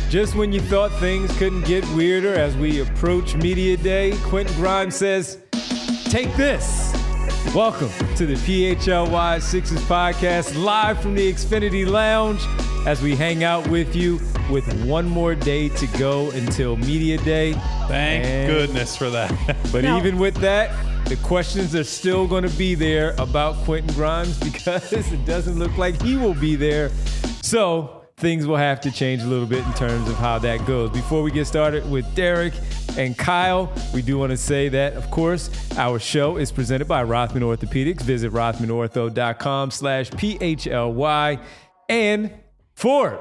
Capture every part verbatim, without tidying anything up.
Just when you thought things couldn't get weirder as we approach Media Day, Quentin Grimes says, take this. Welcome to the P H L Y Sixers podcast, live from the Xfinity Lounge, as we hang out with you with one more day to go until Media Day. Thank and, goodness for that. But now, even with that, the questions are still going to be there about Quentin Grimes because it doesn't look like he will be there. So things will have to change a little bit in terms of how that goes. Before we get started with Derek and Kyle, we do want to say that, of course, our show is presented by Rothman Orthopedics. Visit rothmanortho.com slash P-H-L-Y. And Ford.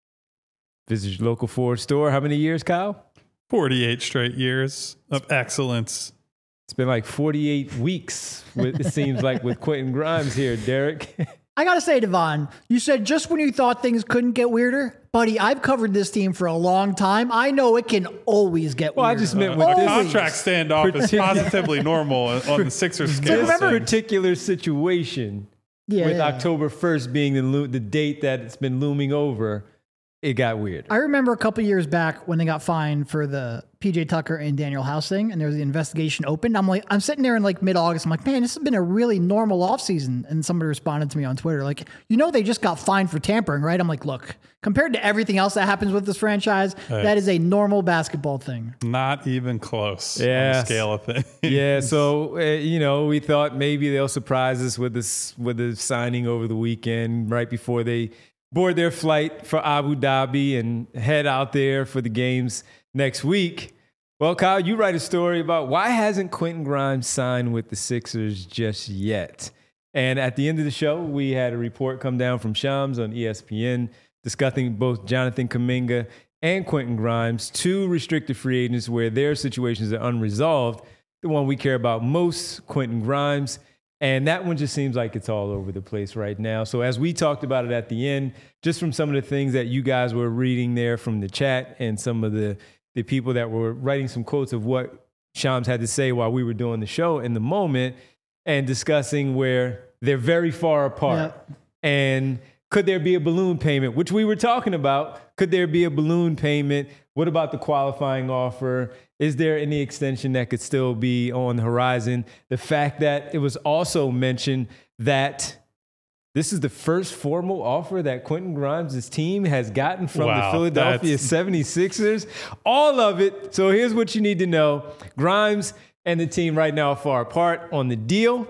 Visit your local Ford store. How many years, Kyle? forty-eight straight years of excellence. It's been like forty-eight weeks, with, it seems like, with Quentin Grimes here, Derek. I got to say, Devon, you said just when you thought things couldn't get weirder. Buddy, I've covered this team for a long time. I know it can always get well, weirder. I just meant Uh, with a this contract standoff is positively normal on the Sixers scale. This particular situation, yeah, with yeah. October first being the lo- the date that it's been looming over, it got weird. I remember a couple years back when they got fined for the P J Tucker and Daniel House thing, and there was the investigation opened. I'm like, I'm sitting there in like mid-August. I'm like, man, this has been a really normal offseason. And somebody responded to me on Twitter, like, you know, they just got fined for tampering, right? I'm like, look, compared to everything else that happens with this franchise, Hey. that is a normal basketball thing. Not even close Yeah. on the scale of things. Yeah, so uh, you know, we thought maybe they'll surprise us with this with the signing over the weekend, right before they board their flight for Abu Dhabi and head out there for the games next week. Well, Kyle, you write a story about why hasn't Quentin Grimes signed with the Sixers just yet? And at the end of the show, we had a report come down from Shams on E S P N discussing both Jonathan Kuminga and Quentin Grimes, two restricted free agents where their situations are unresolved. The one we care about most, Quentin Grimes. And that one just seems like it's all over the place right now. So as we talked about it at the end, just from some of the things that you guys were reading there from the chat and some of the, the people that were writing some quotes of what Shams had to say while we were doing the show in the moment and discussing where they're very far apart. Yeah. And could there be a balloon payment, which we were talking about? Could there be a balloon payment? What about the qualifying offer? Is there any extension that could still be on the horizon? The fact that it was also mentioned that this is the first formal offer that Quentin Grimes' team has gotten from Wow, the Philadelphia that's- seventy-sixers. All of it. So here's what you need to know. Grimes and the team right now are far apart on the deal.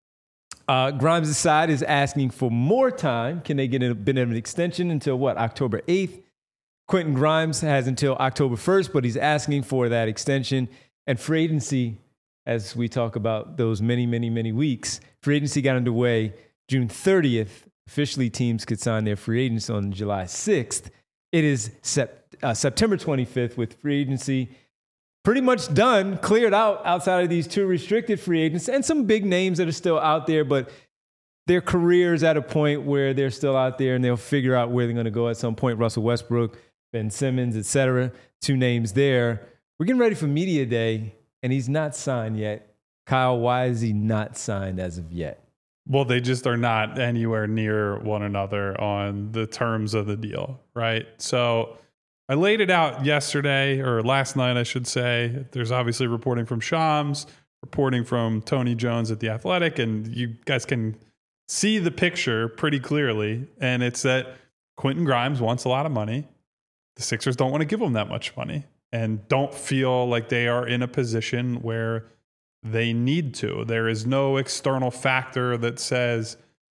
Uh, Grimes' side is asking for more time. Can they get a bit of an extension until what, October eighth? Quentin Grimes has until October first, but he's asking for that extension. And free agency, as we talk about those many, many, many weeks, free agency got underway June thirtieth. Officially, teams could sign their free agents on July sixth. It is sep- uh, September twenty-fifth with free agency pretty much done, cleared out outside of these two restricted free agents and some big names that are still out there, but their careers at a point where they're still out there and they'll figure out where they're going to go at some point. Russell Westbrook, Ben Simmons, et cetera. Two names there. We're getting ready for Media Day, and he's not signed yet. Kyle, why is he not signed as of yet? Well, they just are not anywhere near one another on the terms of the deal, right? So I laid it out yesterday, or last night, I should say. There's obviously reporting from Shams, reporting from Tony Jones at The Athletic, and you guys can see the picture pretty clearly. And it's that Quentin Grimes wants a lot of money. The Sixers don't want to give him that much money and don't feel like they are in a position where they need to. There is no external factor that says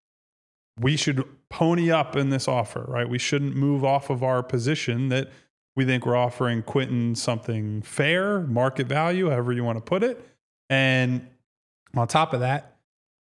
we should pony up in this offer, right? We shouldn't move off of our position that we think we're offering Quentin something fair, market value, however you want to put it. And on top of that,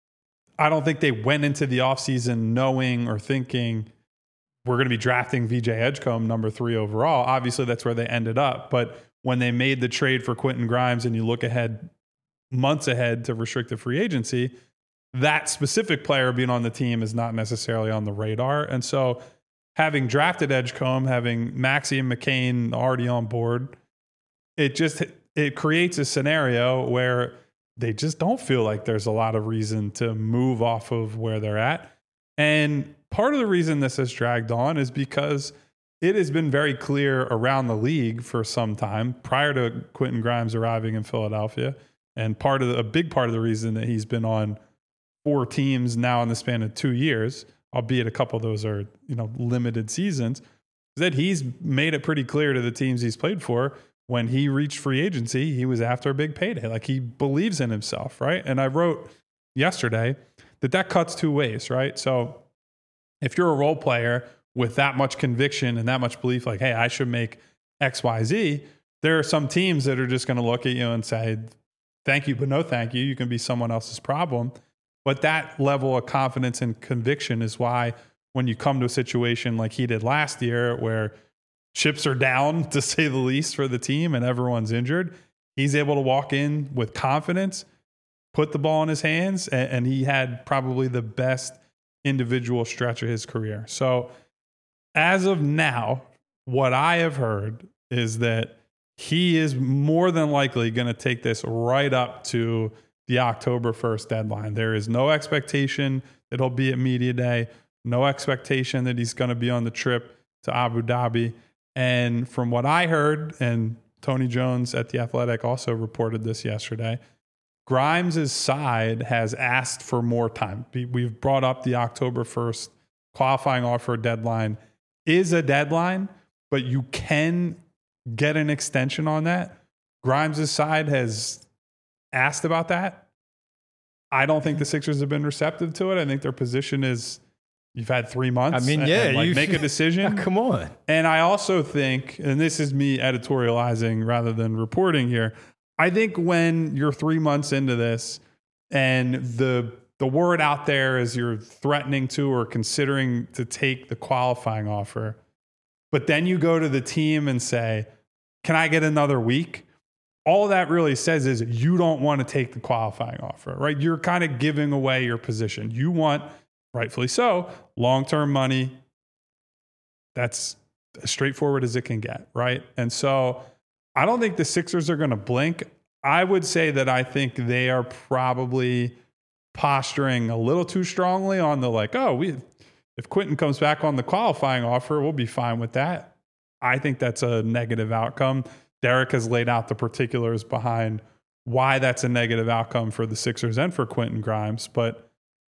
I don't think they went into the offseason knowing or thinking we're going to be drafting V J Edgecombe number three overall. Obviously, that's where they ended up. But when they made the trade for Quentin Grimes and you look ahead, months ahead to restricted free agency, that specific player being on the team is not necessarily on the radar. And so having drafted Edgecombe, having Maxey and McCain already on board, it just it creates a scenario where they just don't feel like there's a lot of reason to move off of where they're at. And part of the reason this has dragged on is because it has been very clear around the league for some time prior to Quentin Grimes arriving in Philadelphia. And part of the, a big part of the reason that he's been on four teams now in the span of two years, albeit a couple of those are, you know, limited seasons, is that he's made it pretty clear to the teams he's played for when he reached free agency, he was after a big payday. Like, he believes in himself, right? And I wrote yesterday that that cuts two ways, right? So if you're a role player with that much conviction and that much belief, like, hey, I should make X, Y, Z, there are some teams that are just going to look at you and say, thank you, but no thank you. You can be someone else's problem. But that level of confidence and conviction is why when you come to a situation like he did last year where chips are down, to say the least, for the team and everyone's injured, he's able to walk in with confidence, put the ball in his hands, and, and he had probably the best individual stretch of his career. So as of now, what I have heard is that he is more than likely going to take this right up to the October first deadline. There is no expectation that he'll be at media day, no expectation that he's going to be on the trip to Abu Dhabi. And from what I heard, and Tony Jones at The Athletic also reported this yesterday, Grimes' side has asked for more time. We've brought up the October first qualifying offer deadline is a deadline, but you can get an extension on that. Grimes' side has asked about that. I don't think the Sixers have been receptive to it. I think their position is, you've had three months. I mean, and, yeah, and like you make a decision. Come on. And I also think, and this is me editorializing rather than reporting here, I think when you're three months into this and the the word out there is you're threatening to or considering to take the qualifying offer, but then you go to the team and say, can I get another week? All that really says is you don't want to take the qualifying offer, right? You're kind of giving away your position. You want, rightfully so, long-term money. That's as straightforward as it can get, right? And so I don't think the Sixers are going to blink. I would say that I think they are probably posturing a little too strongly on the like, oh, we if Quentin comes back on the qualifying offer, we'll be fine with that. I think that's a negative outcome. Derek has laid out the particulars behind why that's a negative outcome for the Sixers and for Quentin Grimes, but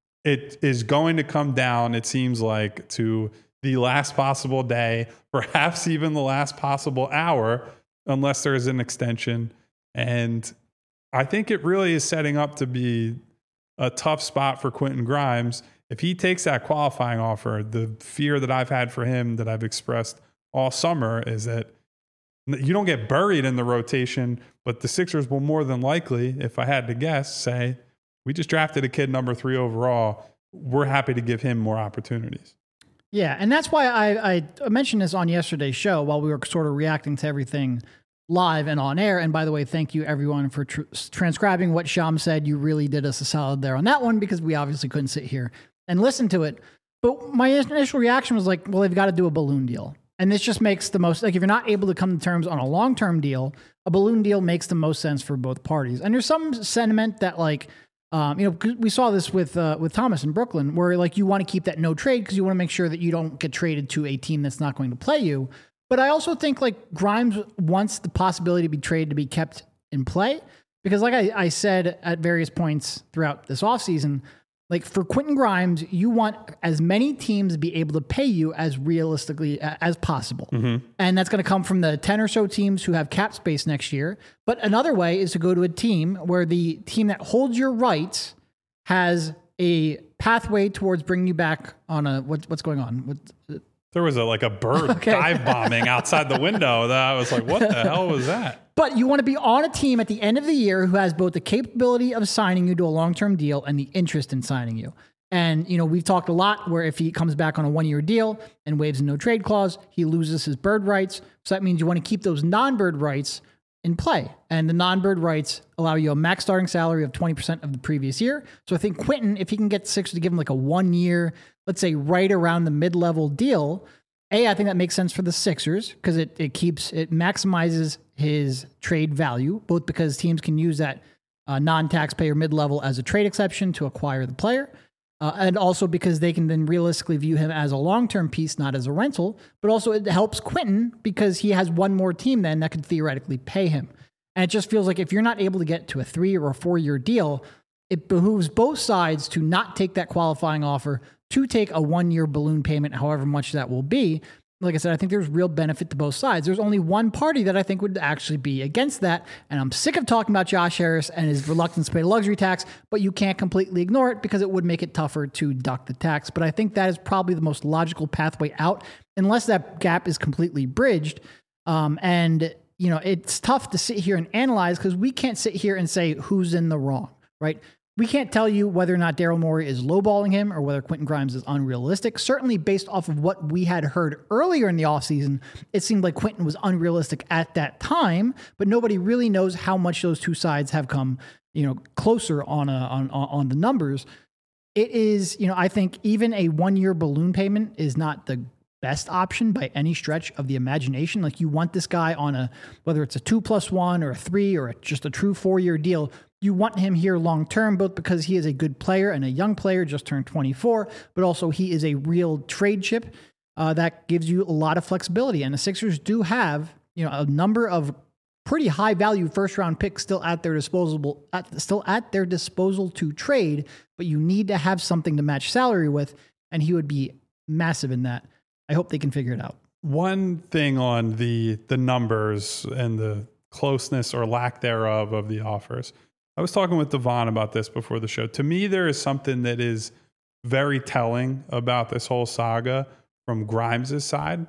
it is going to come down, it seems like, to the last possible day, perhaps even the last possible hour, unless there is an extension. And I think it really is setting up to be a tough spot for Quentin Grimes. If he takes that qualifying offer, the fear that I've had for him that I've expressed all summer is that you don't get buried in the rotation, but the Sixers will more than likely, if I had to guess, say, we just drafted a kid number three overall. We're happy to give him more opportunities. Yeah, and that's why I, I mentioned this on yesterday's show while we were sort of reacting to everything live and on air. And by the way, thank you everyone for tr- transcribing what Sham said. You really did us a solid there on that one because we obviously couldn't sit here and listen to it. But my initial reaction was like, well, they've got to do a balloon deal. And this just makes the most, like if you're not able to come to terms on a long-term deal, a balloon deal makes the most sense for both parties. And there's some sentiment that like, um, you know, we saw this with uh, with Thomas in Brooklyn, where like you want to keep that no trade because you want to make sure that you don't get traded to a team that's not going to play you. But I also think like Grimes wants the possibility to be traded to be kept in play because like I, I said at various points throughout this offseason, like for Quentin Grimes, you want as many teams to be able to pay you as realistically as possible. Mm-hmm. And that's going to come from the ten or so teams who have cap space next year. But another way is to go to a team where the team that holds your rights has a pathway towards bringing you back on a, what, what's going on? What, There was a like a bird okay. dive bombing outside the window that I was like, what the hell was that? But you want to be on a team at the end of the year who has both the capability of signing you to a long-term deal and the interest in signing you. And, you know, we've talked a lot where if he comes back on a one-year deal and waives a no-trade clause, he loses his bird rights. So that means you want to keep those non-bird rights in play. And the non-bird rights allow you a max starting salary of twenty percent of the previous year. So I think Quentin, if he can get the Sixers to give him like a one-year, let's say right around the mid-level deal, A, I think that makes sense for the Sixers because it, it keeps, it maximizes his trade value, both because teams can use that uh, non-taxpayer mid-level as a trade exception to acquire the player. Uh, and also because they can then realistically view him as a long-term piece, not as a rental. But also it helps Quentin because he has one more team then that could theoretically pay him. And it just feels like if you're not able to get to a three or a four-year deal, it behooves both sides to not take that qualifying offer, to take a one-year balloon payment, however much that will be. Like I said, I think there's real benefit to both sides. There's only one party that I think would actually be against that. And I'm sick of talking about Josh Harris and his reluctance to pay luxury tax, but you can't completely ignore it because it would make it tougher to deduct the tax. But I think that is probably the most logical pathway out, unless that gap is completely bridged. Um, and, you know, it's tough to sit here and analyze because we can't sit here and say who's in the wrong, right? We can't tell you whether or not Daryl Morey is lowballing him or whether Quentin Grimes is unrealistic. Certainly based off of what we had heard earlier in the offseason, it seemed like Quentin was unrealistic at that time, but nobody really knows how much those two sides have come, you know, closer on a, on on the numbers. It is, you know, I think even a one-year balloon payment is not the best option by any stretch of the imagination. Like you want this guy on a, whether it's a two plus one or a three or a, just a true four-year deal, you want him here long-term, both because he is a good player and a young player, just turned twenty-four, but also he is a real trade chip uh, that gives you a lot of flexibility. And the Sixers do have, you know, a number of pretty high-value first-round picks still at their disposal, at, still at their disposal to trade, but you need to have something to match salary with, and he would be massive in that. I hope they can figure it out. One thing on the the numbers and the closeness or lack thereof of the offers. I was talking with Devon about this before the show. To me, there is something that is very telling about this whole saga from Grimes' side.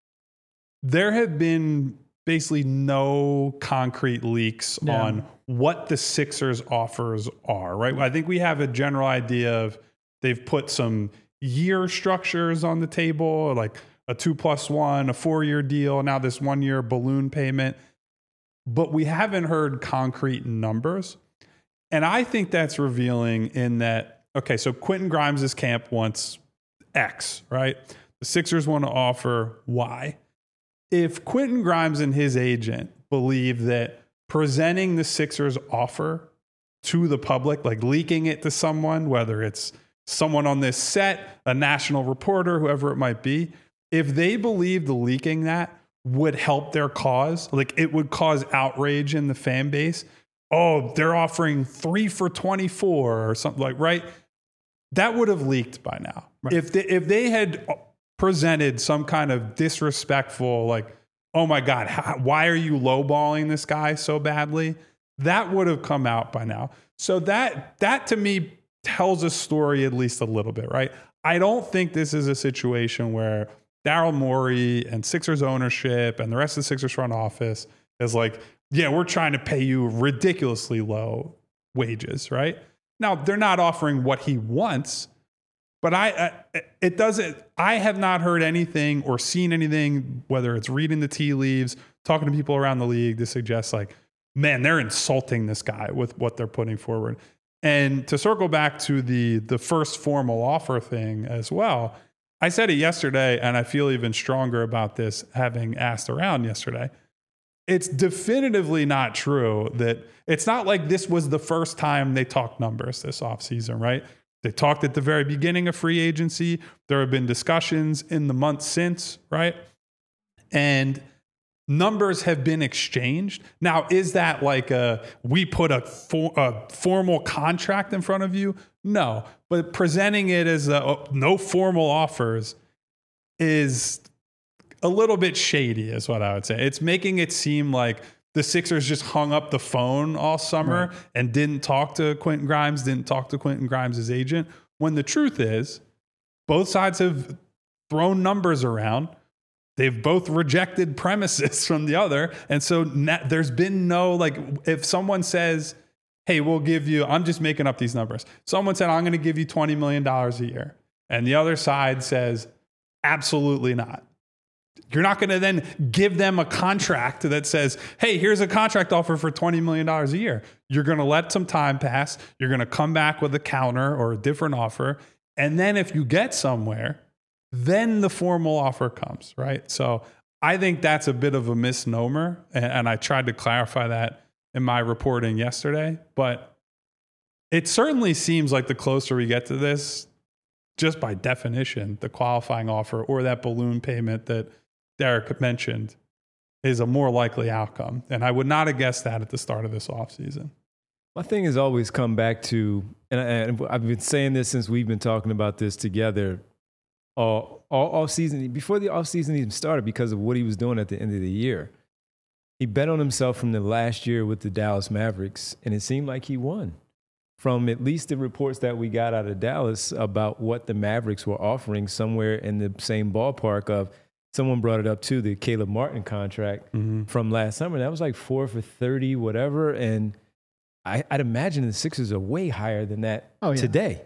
There have been basically no concrete leaks No. on what the Sixers offers are, right? I think we have a general idea of they've put some year structures on the table, like a two plus one, a four-year deal, now this one-year balloon payment. But we haven't heard concrete numbers. And I think that's revealing in that, okay, so Quentin Grimes' camp wants X, right? The Sixers want to offer Y. If Quentin Grimes and his agent believe that presenting the Sixers offer to the public, like leaking it to someone, whether it's someone on this set, a national reporter, whoever it might be, if they believe the leaking that would help their cause, like it would cause outrage in the fan base, oh, they're offering three for twenty-four or something like, right? That would have leaked by now. Right. If they, if they had presented some kind of disrespectful, like, oh my God, how, why are you lowballing this guy so badly? That would have come out by now. So that, that to me tells a story at least a little bit, right? I don't think this is a situation where Daryl Morey and Sixers ownership and the rest of the Sixers front office is like, yeah, we're trying to pay you ridiculously low wages, right? Now, they're not offering what he wants, but I, I it doesn't, I have not heard anything or seen anything, whether it's reading the tea leaves, talking to people around the league, to suggest like, man, they're insulting this guy with what they're putting forward. And to circle back to the the first formal offer thing as well, I said it yesterday, and I feel even stronger about this having asked around yesterday. It's definitively not true that it's not like this was the first time they talked numbers this offseason, right? They talked at the very beginning of free agency. There have been discussions in the months since, right? And numbers have been exchanged. Now, is that like a, we put a, for, a formal contract in front of you? No, but presenting it as a, oh, no formal offers is a little bit shady is what I would say. It's making it seem like the Sixers just hung up the phone all summer right. and didn't talk to Quentin Grimes, didn't talk to Quentin Grimes' agent, when the truth is both sides have thrown numbers around. They've both rejected premises from the other. And so na- there's been no, like, if someone says, hey, we'll give you, I'm just making up these numbers. Someone said, I'm going to give you twenty million dollars a year. And the other side says, absolutely not. You're not going to then give them a contract that says, hey, here's a contract offer for twenty million dollars a year. You're going to let some time pass. You're going to come back with a counter or a different offer. And then if you get somewhere, then the formal offer comes, right? So I think that's a bit of a misnomer. And, and I tried to clarify that in my reporting yesterday. But it certainly seems like the closer we get to this, just by definition, the qualifying offer or that balloon payment that Derek mentioned is a more likely outcome. And I would not have guessed that at the start of this offseason. My thing has always come back to, and, I, and I've been saying this since we've been talking about this together all, all off season, before the off season even started, because of what he was doing at the end of the year. He bet on himself from the last year with the Dallas Mavericks, and it seemed like he won. From at least the reports that we got out of Dallas about what the Mavericks were offering, somewhere in the same ballpark of, someone brought it up too, the Caleb Martin contract mm-hmm. from last summer. That was like four for thirty, whatever. And I, I'd imagine the Sixers are way higher than that oh, yeah. today.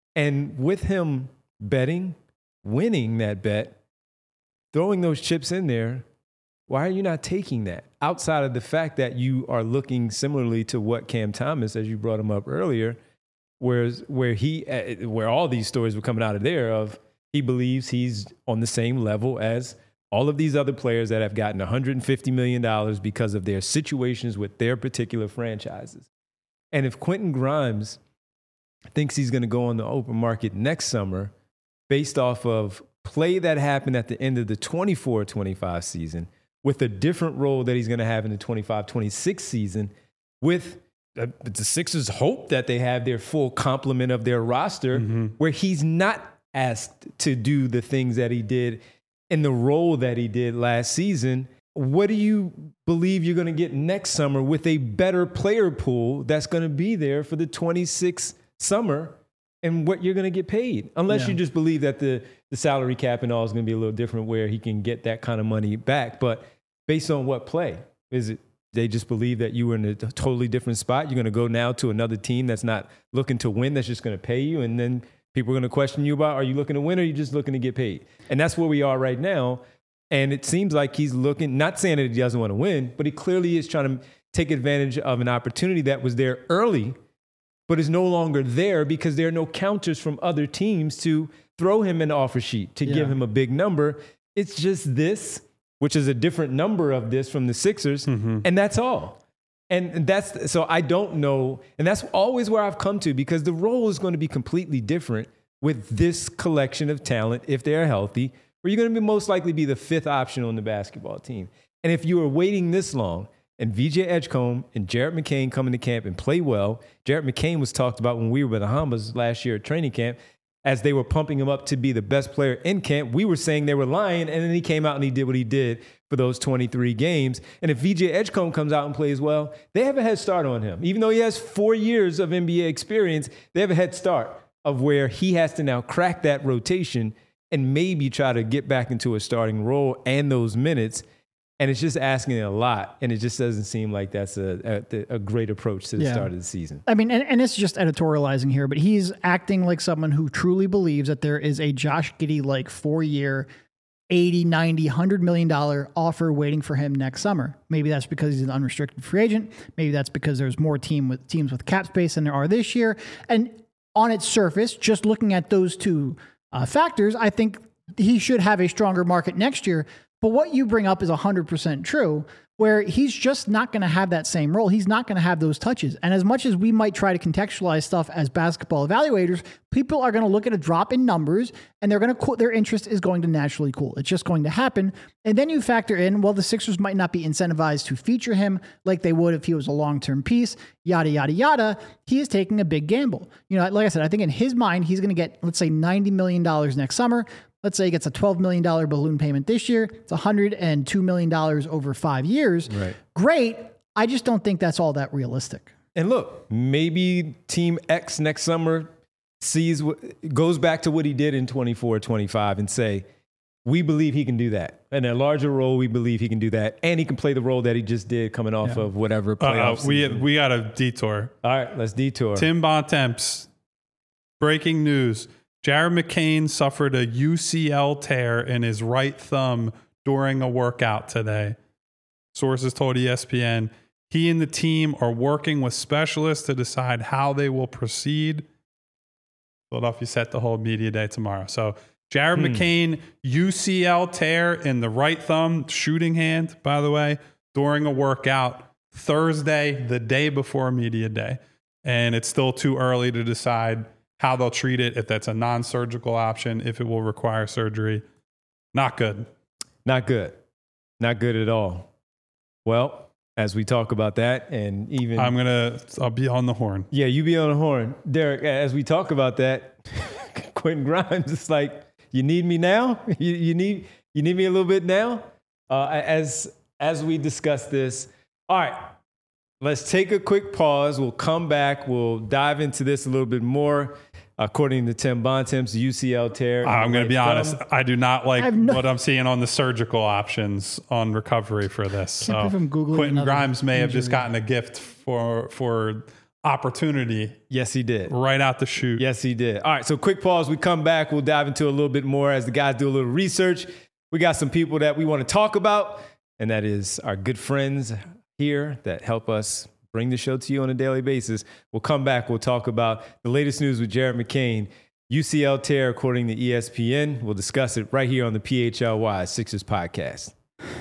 And with him betting, winning that bet, throwing those chips in there, why are you not taking that? Outside of the fact that you are looking similarly to what Cam Thomas, as you brought him up earlier, whereas where he, where all these stories were coming out of there of he believes he's on the same level as all of these other players that have gotten one hundred fifty million dollars because of their situations with their particular franchises. And if Quentin Grimes thinks he's going to go on the open market next summer based off of play that happened at the end of the twenty-four twenty-five season, with a different role that he's going to have in the twenty-five twenty-six season, with the, the Sixers hope that they have their full complement of their roster, mm-hmm. where he's not asked to do the things that he did in the role that he did last season. What do you believe you're going to get next summer with a better player pool that's going to be there for the twenty-six summer and what you're going to get paid? Unless yeah. you just believe that the, the salary cap and all is going to be a little different where he can get that kind of money back. But based on what play? Is it they just believe that you were in a totally different spot? You're going to go now to another team that's not looking to win, that's just going to pay you, and then people are going to question you about, are you looking to win or are you just looking to get paid? And that's where we are right now. And it seems like he's looking, not saying that he doesn't want to win, but he clearly is trying to take advantage of an opportunity that was there early, but is no longer there because there are no counters from other teams to throw him an offer sheet, to yeah. give him a big number. It's just this, which is a different number of this from the Sixers, mm-hmm. and that's all. And that's, so I don't know, and that's always where I've come to, because the role is going to be completely different with this collection of talent if they're healthy, where you're going to be most likely be the fifth option on the basketball team. And if you are waiting this long, and V J Edgecombe and Jared McCain come into camp and play well, Jared McCain was talked about when we were in the Bahamas last year at training camp, as they were pumping him up to be the best player in camp. We were saying they were lying, and then he came out and he did what he did for those twenty-three games. And if V J Edgecombe comes out and plays well, they have a head start on him. Even though he has four years of N B A experience, they have a head start of where he has to now crack that rotation and maybe try to get back into a starting role and those minutes. And it's just asking a lot, and it just doesn't seem like that's a, a, a great approach to the yeah. start of the season. I mean, and, and it's just editorializing here, but he's acting like someone who truly believes that there is a Josh Giddey-like four-year, eighty, ninety, one hundred million dollars offer waiting for him next summer. Maybe that's because he's an unrestricted free agent. Maybe that's because there's more team with teams with cap space than there are this year. And on its surface, just looking at those two uh, factors, I think he should have a stronger market next year. But what you bring up is one hundred percent true, where he's just not going to have that same role. He's not going to have those touches. And as much as we might try to contextualize stuff as basketball evaluators, people are going to look at a drop in numbers and they're going to cool, their interest is going to naturally cool. It's just going to happen. And then you factor in, well, the Sixers might not be incentivized to feature him like they would if he was a long-term piece, yada, yada, yada. He is taking a big gamble. You know, like I said, I think in his mind, he's going to get, let's say, ninety million dollars next summer. Let's say he gets a twelve million dollars balloon payment this year. It's one hundred two million dollars over five years. Right. Great. I just don't think that's all that realistic. And look, maybe Team X next summer sees what, goes back to what he did in twenty-four twenty-five and say, we believe he can do that. In a larger role, we believe he can do that. And he can play the role that he just did coming off yeah. of whatever playoffs. Uh, we, we got a detour. All right, let's detour. Tim Bontemps, breaking news. Jared McCain suffered a U C L tear in his right thumb during a workout today. Sources told E S P N he and the team are working with specialists to decide how they will proceed. Philadelphia set to hold media day tomorrow. So Jared hmm. McCain, U C L tear in the right thumb, shooting hand, by the way, during a workout Thursday, the day before media day. And it's still too early to decide how they'll treat it, if that's a non-surgical option, if it will require surgery. Not good. Not good. Not good at all. Well, as we talk about that, and even I'm gonna, I'll be on the horn. Yeah, you be on the horn, Derek. As we talk about that, Quentin Grimes is like, you need me now? You, you need you need me a little bit now? Uh, as as we discuss this, all right. Let's take a quick pause. We'll come back. We'll dive into this a little bit more. According to Tim Bontemps, U C L tear. I'm going to be honest. I do not like no- what I'm seeing on the surgical options on recovery for this. Can't believe So I'm Googling Quentin another Grimes may have just injury. gotten a gift for for opportunity Yes, he did. right out the chute. Yes, he did. All right, so quick pause. We come back. We'll dive into a little bit more as the guys do a little research. We got some people that we want to talk about, and that is our good friends here that help us bring the show to you on a daily basis. We'll come back. We'll talk about the latest news with Jared McCain, U C L tear according to E S P N. We'll discuss it right here on the P H L Y Sixers podcast.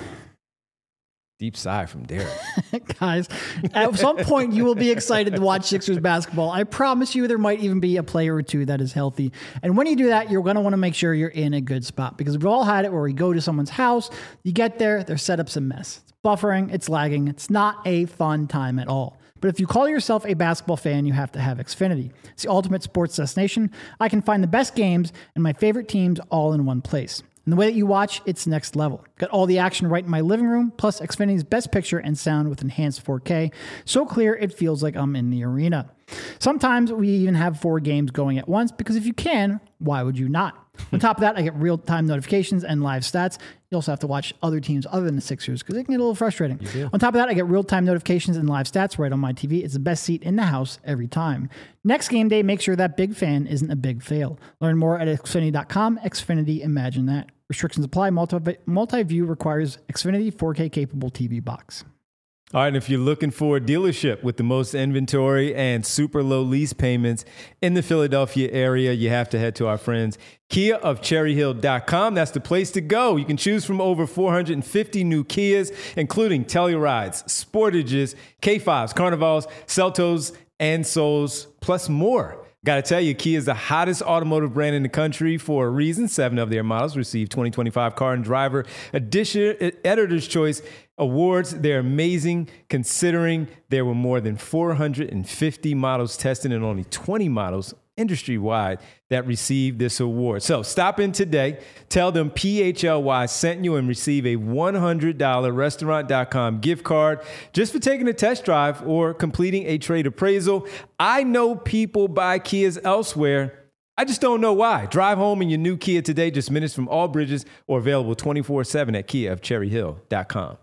Deep sigh from Derek. Guys, at some point you will be excited to watch Sixers basketball. I promise you there might even be a player or two that is healthy. And when you do that, you're going to want to make sure you're in a good spot, because we've all had it where we go to someone's house, you get there, their setup's a mess. It's buffering, it's lagging. It's not a fun time at all. But if you call yourself a basketball fan, you have to have Xfinity. It's the ultimate sports destination. I can find the best games and my favorite teams all in one place. And the way that you watch, it's next level. Got all the action right in my living room, plus Xfinity's best picture and sound with enhanced four K. So clear, it feels like I'm in the arena. Sometimes we even have four games going at once, because if you can, why would you not? On top of that, I get real-time notifications and live stats. You also have to watch other teams other than the Sixers, because it can get a little frustrating. On top of that, I get real-time notifications and live stats right on my T V. It's the best seat in the house every time. Next game day, make sure that big fan isn't a big fail. Learn more at Xfinity dot com. Xfinity, imagine that. Restrictions apply. Multi- multi-view requires Xfinity four K capable T V box. All right, and if you're looking for a dealership with the most inventory and super low lease payments in the Philadelphia area, you have to head to our friends Kia of Cherry Hill dot com. That's the place to go. You can choose from over four hundred fifty new Kias, including Tellurides, Sportages, K fives, Carnivals, Celtos, and Souls, plus more. Got to tell you, Kia is the hottest automotive brand in the country for a reason. Seven of their models received twenty twenty-five Car and Driver Edition Editor's Choice awards. They're amazing, considering there were more than four hundred fifty models tested and only twenty models industry-wide that received this award. So stop in today, tell them P H L Y sent you, and receive a one hundred dollars restaurant dot com gift card just for taking a test drive or completing a trade appraisal. I know people buy Kias elsewhere. I just don't know why. Drive home in your new Kia today, just minutes from all bridges, or available twenty-four seven at Kia of Cherry Hill dot com.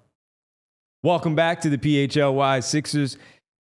Welcome back to the P H L Y Sixers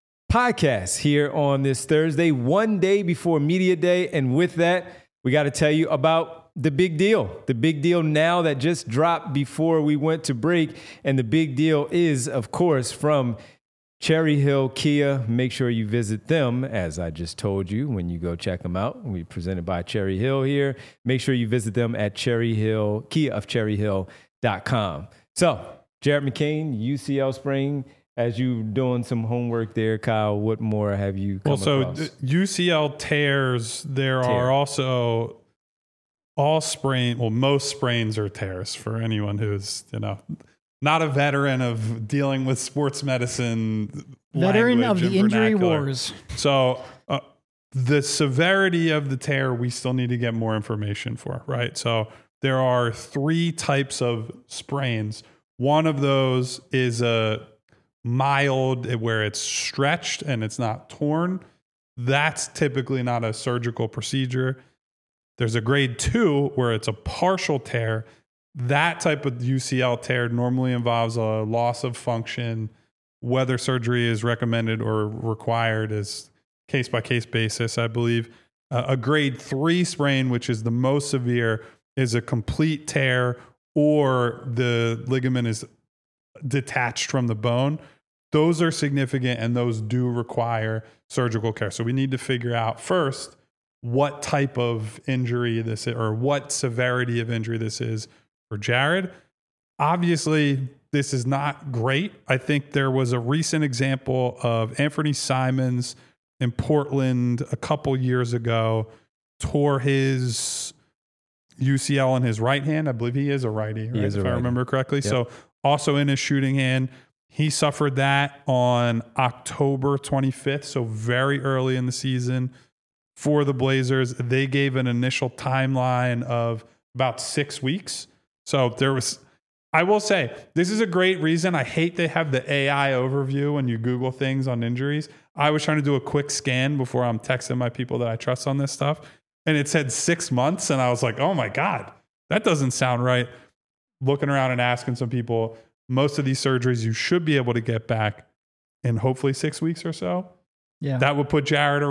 podcast here on this Thursday, one day before Media Day. And with that, we got to tell you about the big deal. The big deal now that just dropped before we went to break. And the big deal is, of course, from Cherry Hill Kia. Make sure you visit them, as I just told you, when you go check them out. We presented by Cherry Hill here. Make sure you visit them at Cherry Hill, Kia of Cherry Hill dot com. So, Jared McCain, U C L sprain. As you doing some homework there, Kyle, what more have you come Well, so across? U C L tears, there Tear. are also all sprain, well, most sprains are tears for anyone who's, you know, not a veteran of dealing with sports medicine. Veteran of language the and injury vernacular. wars. So uh, the severity of the tear, we still need to get more information for, right? So there are three types of sprains. One of those is a mild, where it's stretched and it's not torn. That's typically not a surgical procedure. There's a grade two where it's a partial tear. That type of U C L tear normally involves a loss of function. Whether surgery is recommended or required is case by case basis, I believe. Uh, a grade three sprain, which is the most severe, is a complete tear, or the ligament is detached from the bone. Those are significant, and those do require surgical care. So we need to figure out first what type of injury this is, or what severity of injury this is for Jared. Obviously, this is not great. I think there was a recent example of Anthony Simons in Portland a couple years ago tore his U C L in his right hand. I believe he is a righty, right? is a if I righty. remember correctly. Yep. So also in his shooting hand, he suffered that on October twenty-fifth. So very early in the season for the Blazers. They gave an initial timeline of about six weeks. So there was, I will say, this is a great reason. I hate they have the A I overview when you Google things on injuries. I was trying to do a quick scan before I'm texting my people that I trust on this stuff. And it said six months. And I was like, oh my God, that doesn't sound right. Looking around and asking some people, most of these surgeries you should be able to get back in hopefully six weeks or so. Yeah. That would put Jared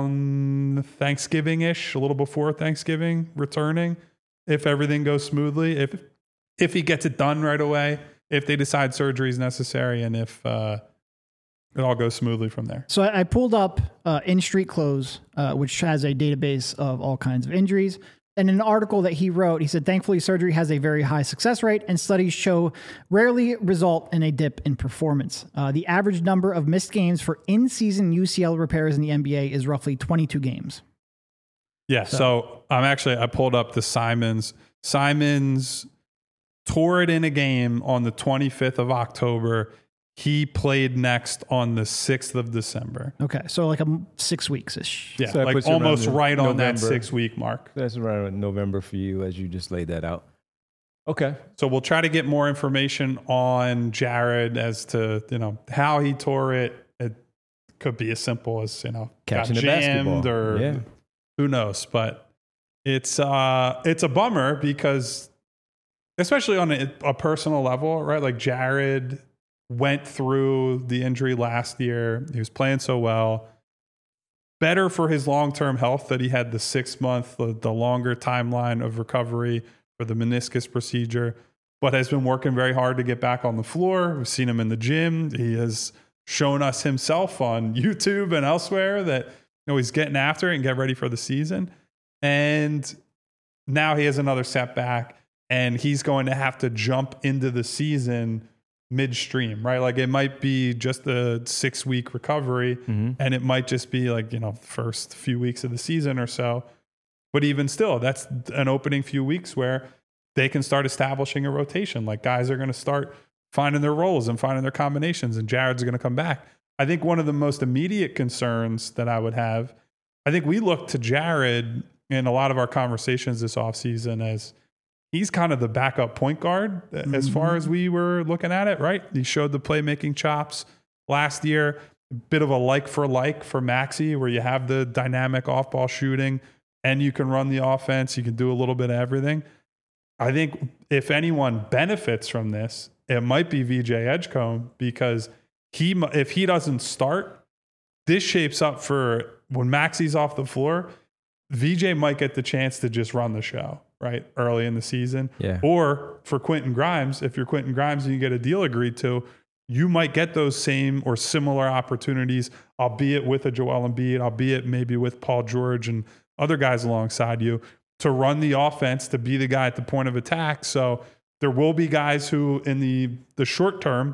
around Thanksgiving-ish, a little before Thanksgiving, returning, if everything goes smoothly, if if he gets it done right away, if they decide surgery is necessary, and if uh, it all goes smoothly from there. So I, I pulled up uh, In Street Clothes, uh, which has a database of all kinds of injuries. And in an article that he wrote, he said, thankfully, surgery has a very high success rate, and studies show rarely result in a dip in performance. Uh, the average number of missed games for in-season U C L repairs in the N B A is roughly twenty-two games. Yeah, so, so I'm actually, I pulled up the Simons. Simons tore it in a game on the twenty-fifth of October. He played next on the sixth of December. Okay, so like a six weeks-ish. Yeah, So that like puts you around almost the right on that November. six-week mark. That's around November for you as you just laid that out. Okay. So we'll try to get more information on Jared as to, you know, how he tore it. It could be as simple as, you know, Catching got a jammed basketball. or Yeah. who knows. But it's uh it's a bummer because especially on a, a personal level, right? Like Jared went through the injury last year. He was playing so well. Better for his long-term health that he had the six-month, the, the longer timeline of recovery for the meniscus procedure, but has been working very hard to get back on the floor. We've seen him in the gym. He has shown us himself on YouTube and elsewhere that, you know, he's getting after it and get ready for the season. And now he has another setback, and he's going to have to jump into the season midstream, right? Like it might be just a six week recovery Mm-hmm. and it might just be like, you know, first few weeks of the season or so. But even still, that's an opening few weeks where they can start establishing a rotation. Like guys are going to start finding their roles and finding their combinations, and Jared's going to come back. I think one of the most immediate concerns that I would have, I think we look to Jared in a lot of our conversations this offseason as he's kind of the backup point guard mm-hmm. as far as we were looking at it, right? He showed the playmaking chops last year, a bit of a like for like for Maxey, where you have the dynamic off-ball shooting and you can run the offense. You can do a little bit of everything. I think if anyone benefits from this, it might be V J Edgecombe, because he, if he doesn't start, this shapes up for when Maxey's off the floor, V J might get the chance to just run the show, right, early in the season. Yeah. Or for Quentin Grimes, if you're Quentin Grimes and you get a deal agreed to, you might get those same or similar opportunities, albeit with a Joel Embiid, albeit maybe with Paul George and other guys alongside you, to run the offense, to be the guy at the point of attack. So there will be guys who in the, the short term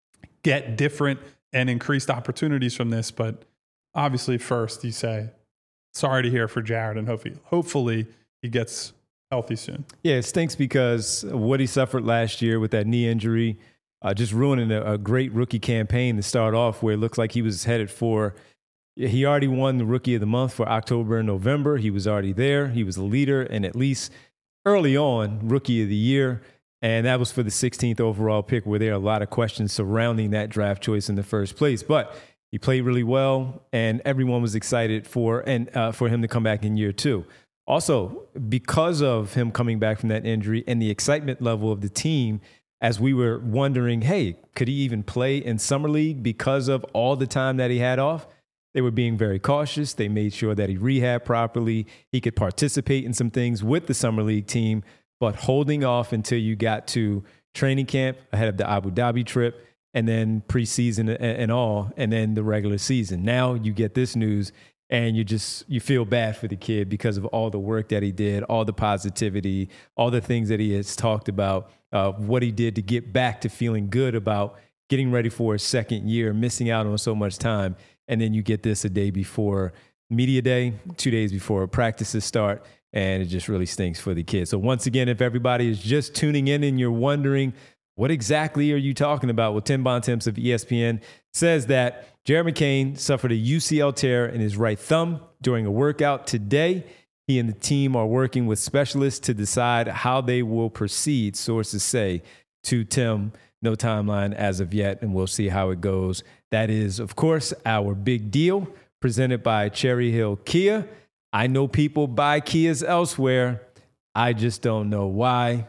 get different and increased opportunities from this. But obviously first you say, sorry to hear for Jared, and hopefully, hopefully he gets healthy soon. Yeah, it stinks because of what he suffered last year with that knee injury, uh, just ruining a, a great rookie campaign to start off, where it looks like he was headed for, he already won the Rookie of the Month for October and November. He was already there. He was a leader, and at least early on, Rookie of the Year. And that was for the sixteenth overall pick, where there are a lot of questions surrounding that draft choice in the first place. But he played really well, and everyone was excited for and uh, for him to come back in year two. Also, because of him coming back from that injury and the excitement level of the team, as we were wondering, hey, could he even play in Summer League because of all the time that he had off? They were being very cautious. They made sure that he rehabbed properly. He could participate in some things with the Summer League team, but holding off until you got to training camp ahead of the Abu Dhabi trip, and then preseason and all, and then the regular season. Now you get this news, and you just, you feel bad for the kid because of all the work that he did, all the positivity, all the things that he has talked about, uh, what he did to get back to feeling good about getting ready for his second year, missing out on so much time. And then you get this a day before media day, two days before practices start, and it just really stinks for the kids. So once again, if everybody is just tuning in and you're wondering, what exactly are you talking about? Well, Tim Bontemps of E S P N says that Jared McCain suffered a U C L tear in his right thumb during a workout today. He and the team are working with specialists to decide how they will proceed, sources say to Tim. No timeline as of yet, and we'll see how it goes. That is, of course, our big deal presented by Cherry Hill Kia. I know people buy Kias elsewhere. I just don't know why.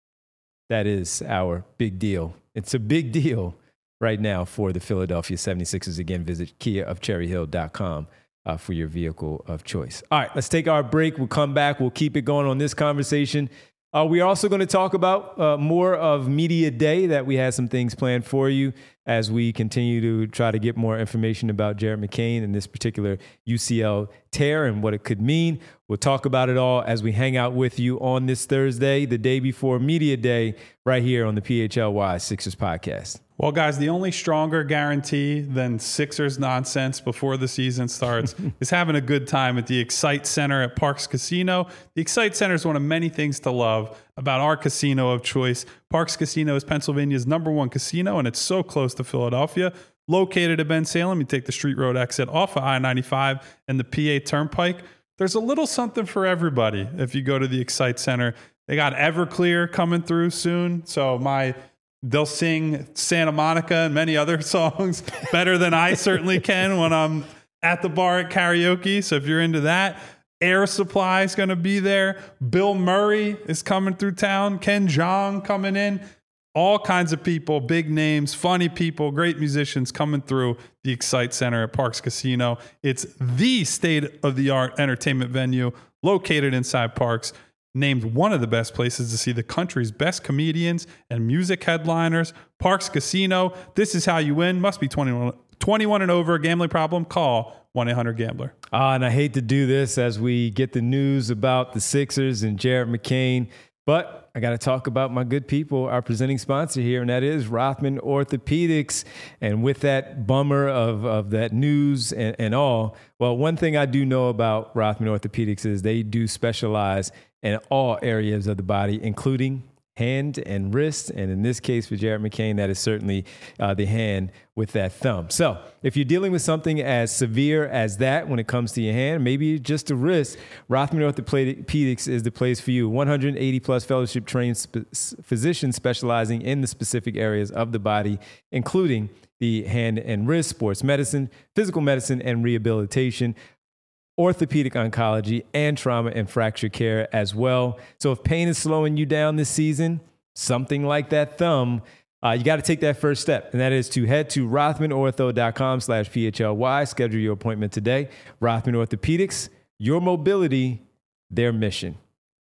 That is our big deal. It's a big deal right now for the Philadelphia seventy-sixers. Again, visit kia of cherry hill dot com. Uh, for your vehicle of choice. All right, let's take our break. We'll come back. We'll keep it going on this conversation. Uh, we're also going to talk about uh, more of Media Day, that we had some things planned for you as we continue to try to get more information about Jared McCain and this particular U C L tear and what it could mean. We'll talk about it all as we hang out with you on this Thursday, the day before Media Day, right here on the P H L Y Sixers podcast. Well, guys, the only stronger guarantee than Sixers nonsense before the season starts is having a good time at the Excite Center at Parx Casino. The Excite Center is one of many things to love about our casino of choice. Parx Casino is Pennsylvania's number one casino, and it's so close to Philadelphia. Located at Ben Salem, you take the Street Road exit off of I ninety-five and the P A Turnpike. There's a little something for everybody if you go to the Excite Center. They got Everclear coming through soon, so my... They'll sing Santa Monica and many other songs better than I certainly can when I'm at the bar at karaoke. So if you're into that, Air Supply is going to be there. Bill Murray is coming through town. Ken Jeong coming in. All kinds of people, big names, funny people, great musicians coming through the Excite Center at Parx Casino. It's the state-of-the-art entertainment venue located inside Parx. Named one of the best places to see the country's best comedians and music headliners. Parx Casino. This is how you win. Must be twenty-one, twenty-one and over. Gambling problem? Call one eight hundred gambler. Ah, and I hate to do this as we get the news about the Sixers and Jared McCain, but I got to talk about my good people, our presenting sponsor here, and that is Rothman Orthopedics. And with that bummer of, of that news and, and all, well, one thing I do know about Rothman Orthopedics is they do specialize in all areas of the body, including hand and wrist. And in this case for Jared McCain, that is certainly uh, the hand with that thumb. So if you're dealing with something as severe as that when it comes to your hand, maybe just a wrist, Rothman Orthopedics is the place for you. one hundred eighty plus fellowship trained sp- physicians specializing in the specific areas of the body, including the hand and wrist, sports medicine, physical medicine, and rehabilitation, orthopedic oncology, and trauma and fracture care as well. So if pain is slowing you down this season, something like that thumb, uh, you got to take that first step, and that is to head to rothmanortho.com slash PHLY. Schedule your appointment today. Rothman Orthopedics, your mobility, their mission.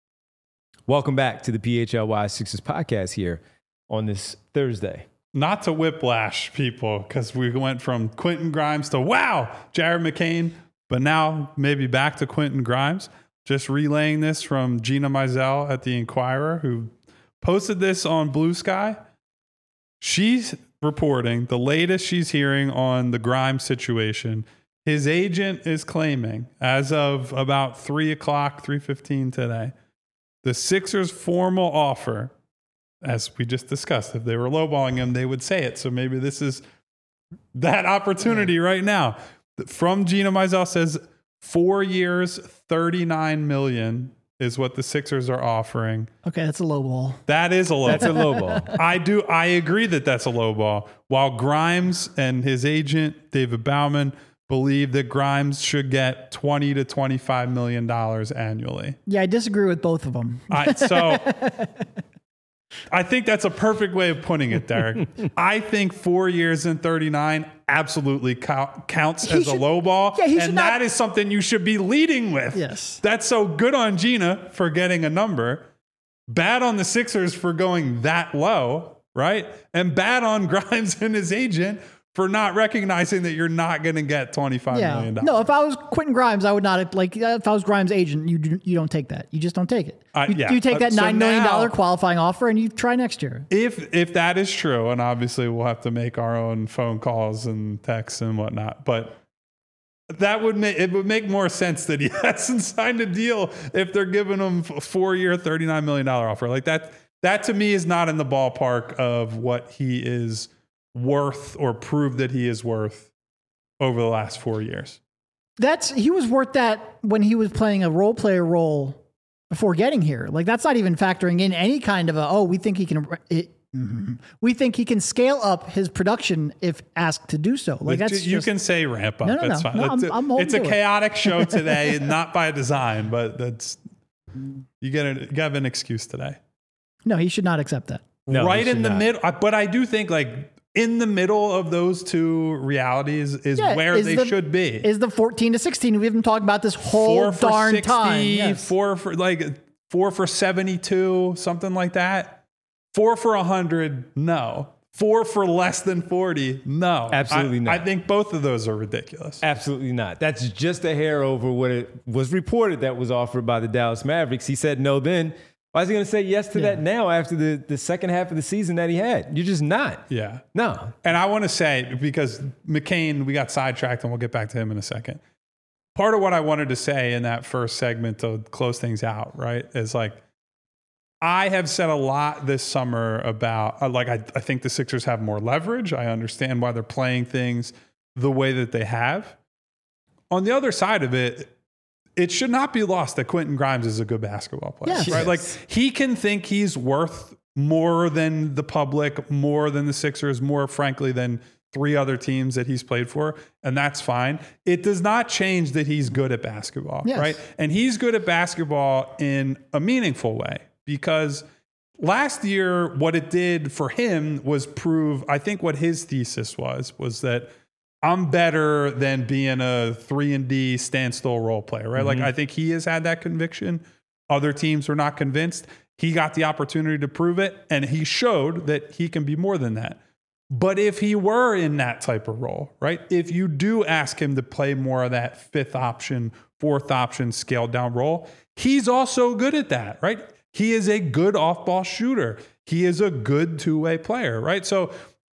Welcome back to the P H L Y Sixers podcast here on this Thursday. Not to whiplash people, because we went from Quentin Grimes to, wow, Jared McCain. But now maybe back to Quentin Grimes. Just relaying this from Gina Mizell at the Inquirer, who posted this on Blue Sky. She's reporting the latest she's hearing on the Grimes situation. His agent is claiming, as of about three o'clock, three fifteen today, the Sixers' formal offer, as we just discussed, if they were lowballing him, they would say it. So maybe this is that opportunity right now. From Gina Mizell says four years, thirty-nine million dollars is what the Sixers are offering. Okay, that's a low ball. That is a low That's a low ball. I do. I agree that that's a low ball. While Grimes and his agent, David Bauman, believe that Grimes should get twenty to twenty-five million dollars annually. Yeah, I disagree with both of them. I, so I think that's a perfect way of putting it, Derek. I think four years and thirty-nine absolutely count, counts He as should- a low ball. yeah, he should and not- that is something you should be leading with. Yes. That's so good on Gina for getting a number. Bad on the Sixers for going that low, right? And bad on Grimes and his agent for not recognizing that you're not going to get twenty-five Yeah. million dollars. No, if I was Quentin Grimes, I would not have, like, if I was Grimes' agent, you do, you don't take that. You just don't take it. Uh, you, yeah. you take Uh, that so nine million dollars now- qualifying offer and you try next year. If if that is true, and obviously we'll have to make our own phone calls and texts and whatnot, but that would make it would make more sense that he hasn't signed a deal if they're giving him a four-year, thirty-nine million dollars offer. Like that, that to me is not in the ballpark of what he is worth or prove that he is worth over the last four years. That's he was worth that when he was playing a role player role before getting here. Like that's not even factoring in any kind of a, oh, we think he can, it, mm-hmm. we think he can scale up his production if asked to do so. Like that's you just, can say ramp up. No, no, that's no. fine. No, it's I'm, a, I'm it's a to chaotic show today, not by design, but that's you get a, you have an excuse today. No, he should not accept that. No, right he in should the not. middle, but I do think like in the middle of those two realities is Yeah, where is they the- should be. Is the fourteen to sixteen? We've been talking about this whole Four for darn sixty, time. Yes. four for like four for seventy-two, something like that. Four for a hundred, no. Four for less than forty, no. Absolutely I, not. I think both of those are ridiculous. Absolutely not. That's just a hair over what it was reported that was offered by the Dallas Mavericks. He said no then. Why is he going to say yes to Yeah. that now after the, the second half of the season that he had? You're just not. Yeah. No. And I want to say, because McCain, we got sidetracked and we'll get back to him in a second. Part of what I wanted to say in that first segment to close things out, right, is like, I have said a lot this summer about, uh, like, I, I think the Sixers have more leverage. I understand why they're playing things the way that they have. On the other side of it, it should not be lost that Quentin Grimes is a good basketball player, Yes. right? Yes. Like he can think he's worth more than the public, more than the Sixers, more frankly than three other teams that he's played for, and that's fine. It does not change that he's good at basketball, Yes. right? And he's good at basketball in a meaningful way because last year what it did for him was prove, I think what his thesis was, was that I'm better than being a three and D standstill role player, right? Mm-hmm. Like I think he has had that conviction. Other teams were not convinced. He got the opportunity to prove it, and he showed that he can be more than that. But if he were in that type of role, right? If you do ask him to play more of that fifth option, fourth option, scaled down role, he's also good at that, right? He is a good off-ball shooter. He is a good two-way player, right? So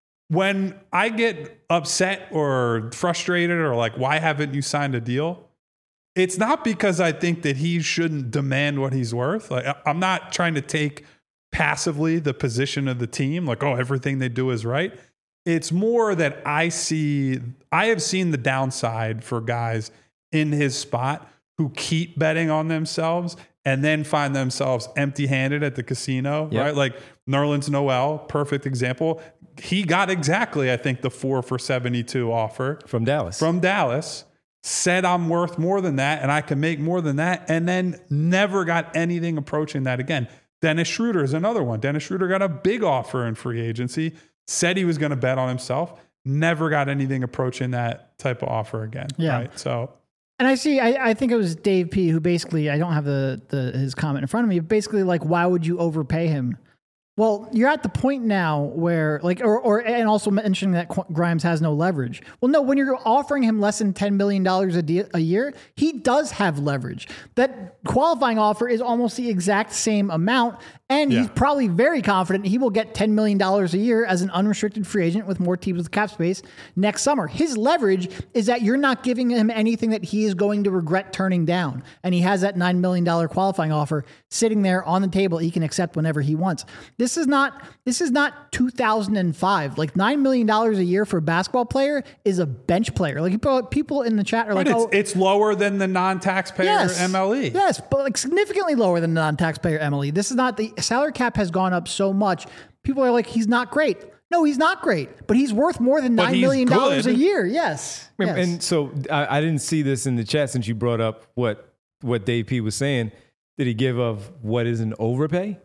when I get upset or frustrated or like, why haven't you signed a deal? It's not because I think that he shouldn't demand what he's worth. Like I'm not trying to take passively the position of the team, like, oh, everything they do is right. It's more that I see, I have seen the downside for guys in his spot who keep betting on themselves and then find themselves empty-handed at the casino, Yep. right? Like Nerlens Noel, perfect example. He got exactly, I think, the four for seventy-two offer From Dallas. from Dallas, said I'm worth more than that and I can make more than that, and then never got anything approaching that again. Dennis Schroeder is another one. Dennis Schroeder got a big offer in free agency, said he was going to bet on himself, never got anything approaching that type of offer again. Yeah. Right? So And I see, I, I think it was Dave P who basically, I don't have the, the his comment in front of me, but basically like, why would you overpay him? Well, you're at the point now where like, or, or and also mentioning that Qu- Grimes has no leverage. Well, no, when you're offering him less than ten million dollars a, de- a year, he does have leverage. That qualifying offer is almost the exact same amount. And Yeah. he's probably very confident he will get ten million dollars a year as an unrestricted free agent with more teams with cap space next summer. His leverage is that you're not giving him anything that he is going to regret turning down. And he has that nine million dollars qualifying offer sitting there on the table he can accept whenever he wants. This is not this is not two thousand five. Like nine million dollars a year for a basketball player is a bench player. Like people, people in the chat are but like, it's, oh, it's lower than the non-taxpayer yes, M L E. Yes, but like significantly lower than the non-taxpayer M L E. This is not the salary cap has gone up so much. People are like, he's not great. No, he's not great, but he's worth more than But nine he's million dollars a good. year. Yes. And, yes. and so I, I didn't see this in the chat since you brought up what what Dave P was saying. Did he give of what is an overpay?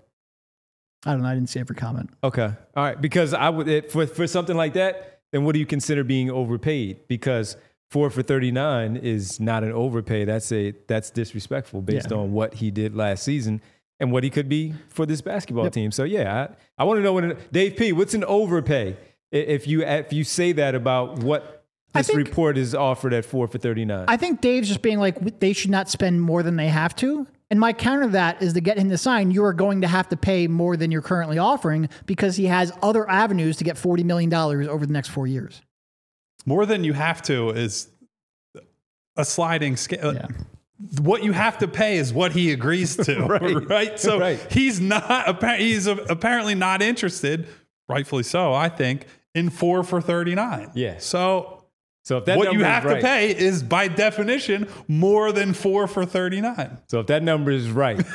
I don't know. I didn't see every comment. Okay, all right. Because I would it, for for something like that, then what do you consider being overpaid? Because four for thirty-nine is not an overpay. That's a that's disrespectful based Yeah. on what he did last season and what he could be for this basketball Yep. team. So yeah, I, I want to know what an, Dave P. What's an overpay? I- If you if you say that about what I this think- report is offered at four for thirty-nine. I think Dave's just being like, they should not spend more than they have to. And my counter to that is to get him to sign, you are going to have to pay more than you're currently offering because he has other avenues to get forty million dollars over the next four years. More than you have to is a sliding scale. Yeah. What you have to pay is what he agrees to, right. right? So Right. he's not. He's apparently not interested, rightfully so, I think, in four for thirty-nine. Yeah. So So if that what you number is have right, to pay is by definition more than four for thirty-nine. So if that number is right,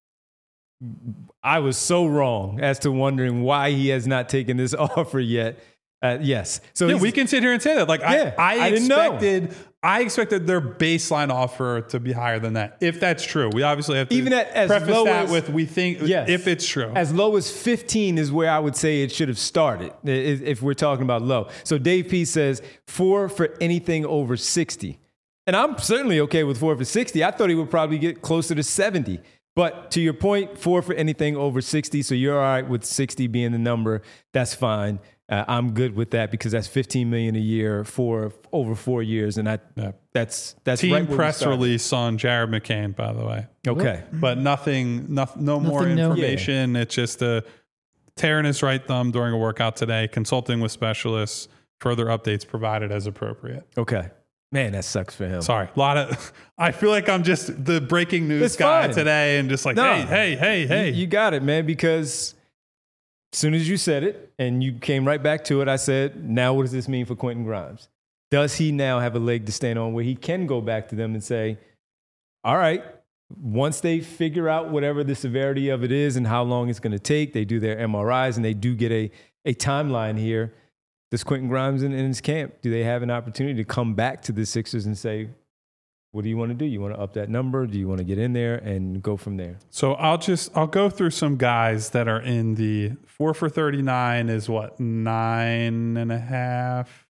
I was so wrong as to wondering why he has not taken this offer yet. Uh, yes. So Yeah, he's- we can sit here and say that. Like Yeah, I, I I didn't know. expected, I expected their baseline offer to be higher than that. If that's true, we obviously have to Even at- as preface low that as- with we think Yes. if it's true. as low as fifteen is where I would say it should have started i- if if we're talking about low. So Dave P says four for anything over sixty. And I'm certainly okay with four for sixty. I thought he would probably get closer to seventy. But to your point, four for anything over sixty. So you're all right with sixty being the number. That's fine. Uh, I'm good with that because that's fifteen million dollars a year for over four years. And I, Yeah. that's, that's Team right where we press started. release on Jared McCain, by the way. Okay. But nothing, no, no more Nothing new. information. It's just a tearing his right thumb during a workout today, consulting with specialists, further updates provided as appropriate. Okay. Man, that sucks for him. Sorry, a lot of. I feel like I'm just the breaking news It's guy fine. today, and just like, No. hey, hey, hey, hey. You, you got it, man, because as soon as you said it and you came right back to it, I said, now what does this mean for Quentin Grimes? Does he now have a leg to stand on where he can go back to them and say, all right, once they figure out whatever the severity of it is and how long it's going to take, they do their M R Is and they do get a, a timeline here. Does Quentin Grimes in, in his camp, do they have an opportunity to come back to the Sixers and say, what do you want to do? You want to up that number? Do you want to get in there and go from there? So I'll just I'll go through some guys that are in the four for thirty-nine is what, nine and a half,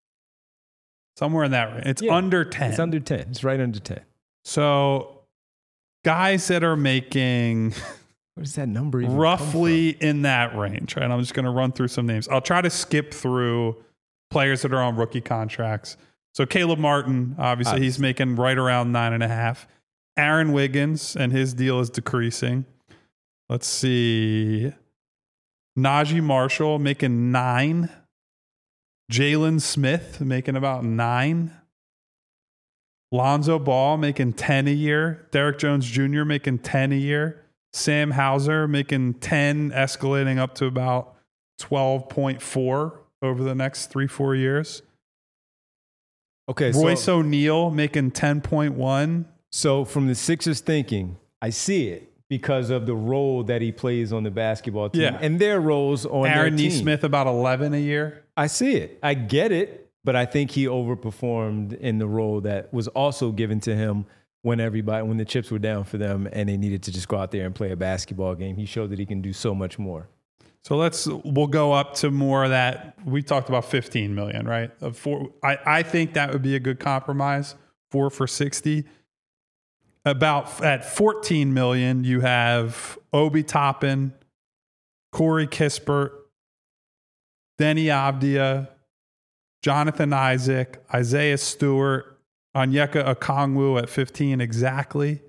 somewhere in that range. It's Yeah, under ten. It's under ten. It's right under ten. So guys that are making Where does that number even come roughly in that range, right? I'm just going to run through some names. I'll try to skip through players that are on rookie contracts. So Caleb Martin, obviously, Obviously. he's making right around nine and a half. Aaron Wiggins, and his deal is decreasing. Let's see. Najee Marshall making nine. Jalen Smith making about nine. Lonzo Ball making ten a year. Derek Jones Junior making ten a year. Sam Hauser making ten, escalating up to about twelve point four over the next three, four years. Okay, Royce so, O'Neal making ten point one. so from the Sixers thinking, I see it because of the role that he plays on the basketball team Yeah. and their roles on Aaron their team. Nesmith about eleven a year. I see it. I get it, but I think he overperformed in the role that was also given to him when everybody, when the chips were down for them and they needed to just go out there and play a basketball game. He showed that he can do so much more. So let's we'll go up to more of that. We talked about fifteen million, right? Of four, I, I think that would be a good compromise. Four for sixty. About at fourteen million, you have Obi Toppin, Corey Kispert, Denny Avdia, Jonathan Isaac, Isaiah Stewart, Onyeka Okongwu at fifteen exactly.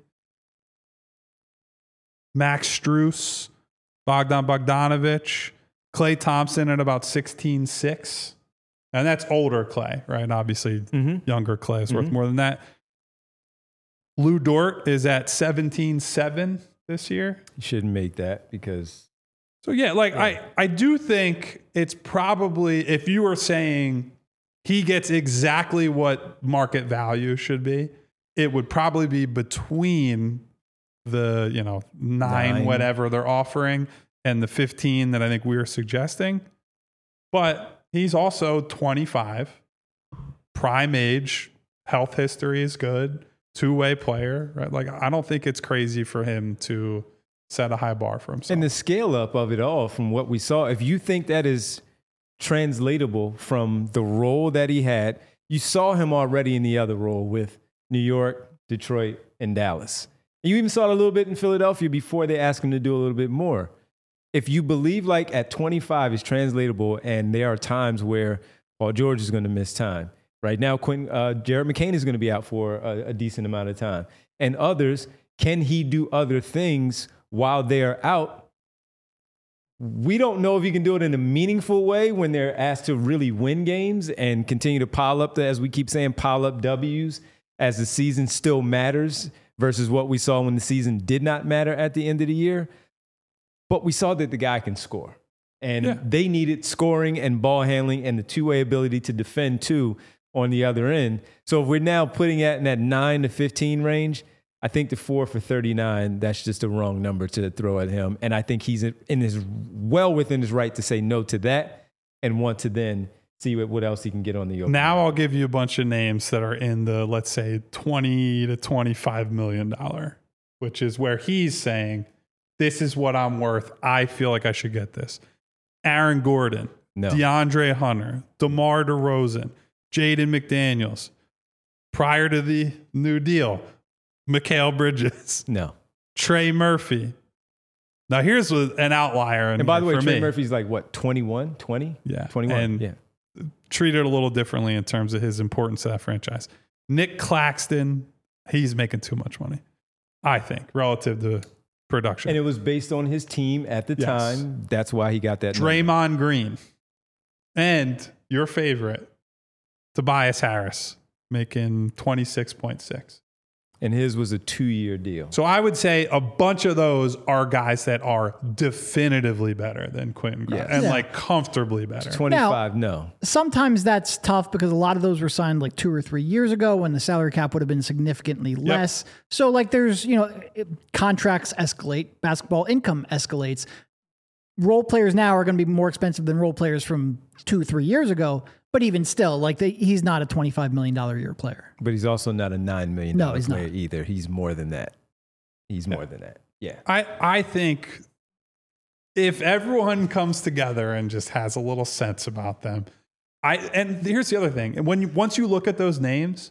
Max Strus, Bogdan Bogdanovic, Klay Thompson at about sixteen six. And that's older Klay, right? Obviously, Mm-hmm. younger Klay is worth Mhm. more than that. Lou Dort is at seventeen seven this year. He shouldn't make that because So yeah, like Yeah. I, I do think it's probably, if you were saying he gets exactly what market value should be, it would probably be between the, you know, nine, Nine. whatever they're offering and the fifteen that I think we were suggesting. But he's also twenty-five, prime age, health history is good, two-way player, right? Like I don't think it's crazy for him to set a high bar for himself. and the scale up of it all from what we saw, if you think that is translatable from the role that he had, you saw him already in the other role with New York, Detroit, and Dallas. You even saw it a little bit in Philadelphia before they asked him to do a little bit more. If you believe like at twenty-five is translatable and there are times where Paul George is going to miss time. Right now, Quentin, uh, Jared McCain is going to be out for a, a decent amount of time. And others, can he do other things while they're out? We don't know if he can do it in a meaningful way when they're asked to really win games and continue to pile up the, as we keep saying, pile up W's as the season still matters versus what we saw when the season did not matter at the end of the year. But we saw that the guy can score. And Yeah. they needed scoring and ball handling and the two-way ability to defend too on the other end. So if we're now putting it in that nine to fifteen range, I think the four for thirty-nine, that's just a wrong number to throw at him. And I think he's in his well within his right to say no to that and want to then see what, what else he can get on the open. Now I'll give you a bunch of names that are in the, let's say, twenty to twenty-five million dollars, which is where he's saying, this is what I'm worth. I feel like I should get this. Aaron Gordon, No. DeAndre Hunter, DeMar DeRozan, Jaden McDaniels. Prior to the new deal, Mikal Bridges, No. Trey Murphy. Now here's what- an outlier. in And by the here way, for Trey me. Murphy's like, what, twenty-one, twenty? Yeah. twenty-one, And yeah. treated a little differently in terms of his importance to that franchise. Nick Claxton, he's making too much money, I think, relative to production. And it was based on his team at the Yes. time. That's why he got that number. Draymond Green and your favorite, Tobias Harris, making twenty-six point six. And his was a two-year deal. So I would say a bunch of those are guys that are definitively better than Quentin Grimes, Yes. and Yeah. like comfortably better. twenty-five, no. Sometimes that's tough because a lot of those were signed like two or three years ago when the salary cap would have been significantly less. So like there's, you know, it- contracts escalate, basketball income escalates. Role players now are going to be more expensive than role players from two, three years ago. But even still, like they, he's not a twenty-five million dollars a year player. But he's also not a nine million No, dollars he's not. player either. He's more than that. He's more than that. Yeah. I, I think if everyone comes together and just has a little sense about them, I and here's the other thing. When you, once you look at those names,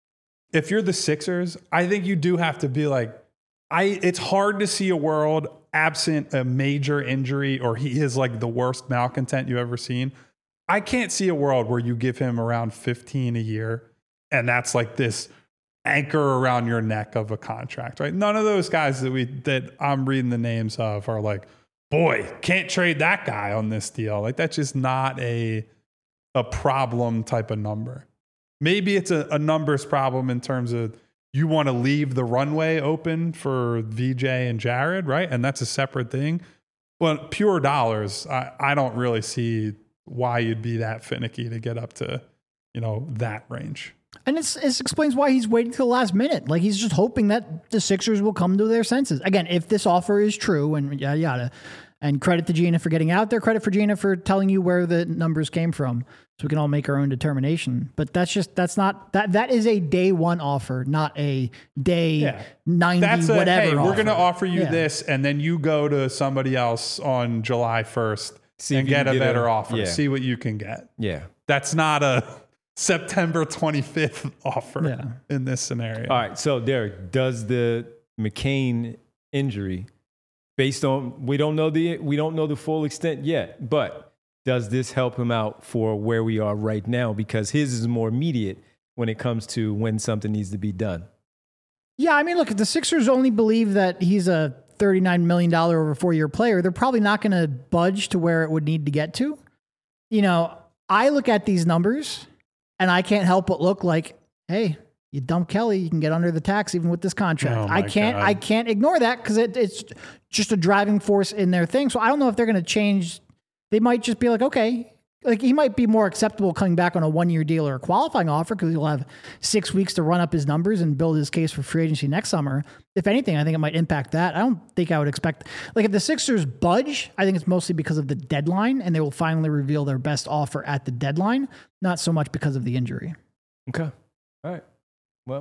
if you're the Sixers, I think you do have to be like, I. It's hard to see a world absent a major injury or he is like the worst malcontent you've ever seen. I can't see a world where you give him around fifteen a year and that's like this anchor around your neck of a contract, right? None of those guys that we that I'm reading the names of are like, boy, can't trade that guy on this deal. Like that's just not a a problem type of number. Maybe it's a, a numbers problem in terms of you want to leave the runway open for V J and Jared, right? And that's a separate thing. But pure dollars, I, I don't really see why you'd be that finicky to get up to, you know, that range. And it's, it explains why he's waiting till the last minute. Like he's just hoping that the Sixers will come to their senses. Again, if this offer is true and yada, yada. And credit to Gina for getting out there. Credit for Gina for telling you where the numbers came from. So we can all make our own determination. But that's just, that's not, that that is a day one offer, not a day Yeah. ninety, That's a, whatever hey, we're offer. going to offer you Yeah. this, and then you go to somebody else on July first See if and you get can a get better a- offer. yeah. See what you can get. Yeah. That's not a September twenty-fifth offer Yeah. in this scenario. All right. So, Derek, does the McCain injury, based on we don't know the we don't know the full extent yet, but does this help him out for where we are right now? Because his is more immediate when it comes to when something needs to be done. Yeah, I mean, look, if the Sixers only believe that he's a thirty-nine million dollars over four-year player, they're probably not going to budge to where it would need to get to. You know, I look at these numbers, and I can't help but look like, hey, you dump Kelly, you can get under the tax even with this contract. Oh, I my can't, God. I can't ignore that because it, it's just a driving force in their thing. So I don't know if they're going to change. They might just be like, okay, like he might be more acceptable coming back on a one-year deal or a qualifying offer because he'll have six weeks to run up his numbers and build his case for free agency next summer. If anything, I think it might impact that. I don't think I would expect, like if the Sixers budge, I think it's mostly because of the deadline and they will finally reveal their best offer at the deadline, not so much because of the injury. Okay. All right. Well,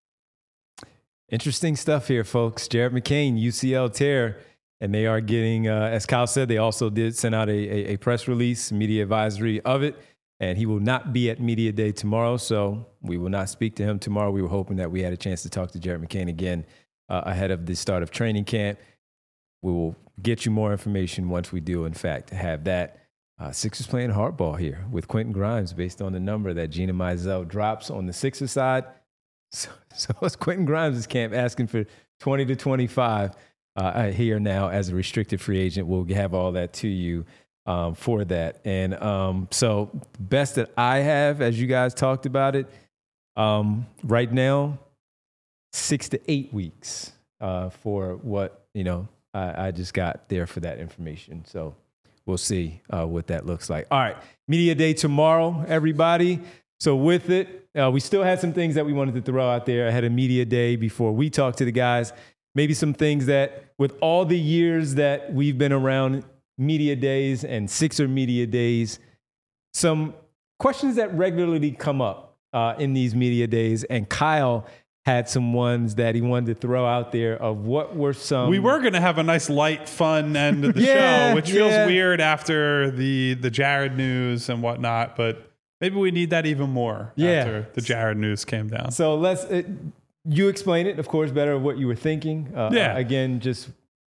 interesting stuff here, folks. Jared McCain, U C L tear. And they are getting, uh, as Kyle said, they also did send out a, a, a press release, media advisory of it. And he will not be at Media Day tomorrow, so we will not speak to him tomorrow. We were hoping that we had a chance to talk to Jared McCain again uh, ahead of the start of training camp. We will get you more information once we do, in fact, have that. Uh, Sixers playing hardball here with Quentin Grimes based on the number that Gina Mizell drops on the Sixers side. So, so it's Quentin Grimes' camp asking for twenty to twenty-five. Uh, here now as a restricted free agent. We'll have all that to you um, for that. And um, so best that I have, as you guys talked about it, Um, right now, six to eight weeks uh, for what, you know, I, I just got there for that information. So we'll see uh, what that looks like. All right, Media Day tomorrow, everybody. So with it, uh, we still had some things that we wanted to throw out there ahead of Media Day before we talk to the guys. Maybe some things that, with all the years that we've been around Media Days and Sixer Media Days, some questions that regularly come up uh, in these Media Days. And Kyle had some ones that he wanted to throw out there of what were some... We were going to have a nice light, fun end of the yeah, show, which feels yeah. weird after the, the Jared news and whatnot, but maybe we need that even more yeah. after the Jared news came down. So let's... Uh, you explain it, of course, better of what you were thinking. Uh, yeah. Uh, again, just...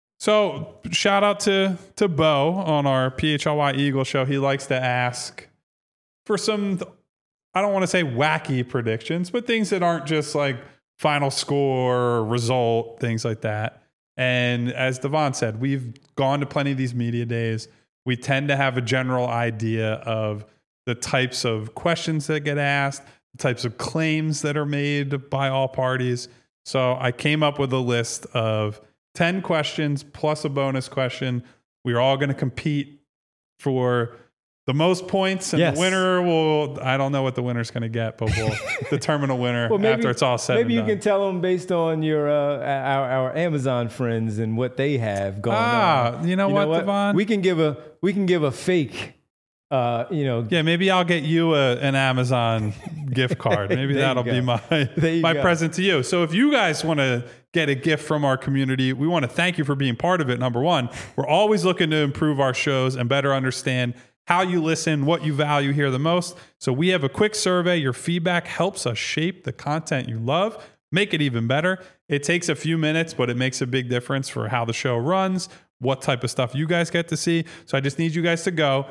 So shout out to, to Bo on our P H L Y Eagle show. He likes to ask for some, I don't want to say wacky predictions, but things that aren't just like final score, result, things like that. And as Devon said, we've gone to plenty of these media days. We tend to have a general idea of the types of questions that get asked, the types of claims that are made by all parties. So I came up with a list of ten questions plus a bonus question. We're all going to compete for the most points, and yes. the winner will, I don't know what the winner's going to get, but we'll determine a winner well, maybe, after it's all said Maybe and you done. can tell them based on your uh, our, our Amazon friends and what they have going ah, on. you know you what, know what, Devon? We can give a we can give a fake. Uh, you know, yeah, maybe I'll get you a, an Amazon gift card. Maybe that'll be my my go. present to you. So if you guys want to get a gift from our community, we want to thank you for being part of it. Number one, we're always looking to improve our shows and better understand how you listen, what you value here the most. So we have a quick survey. Your feedback helps us shape the content you love, make it even better. It takes a few minutes, but it makes a big difference for how the show runs, what type of stuff you guys get to see. So I just need you guys to go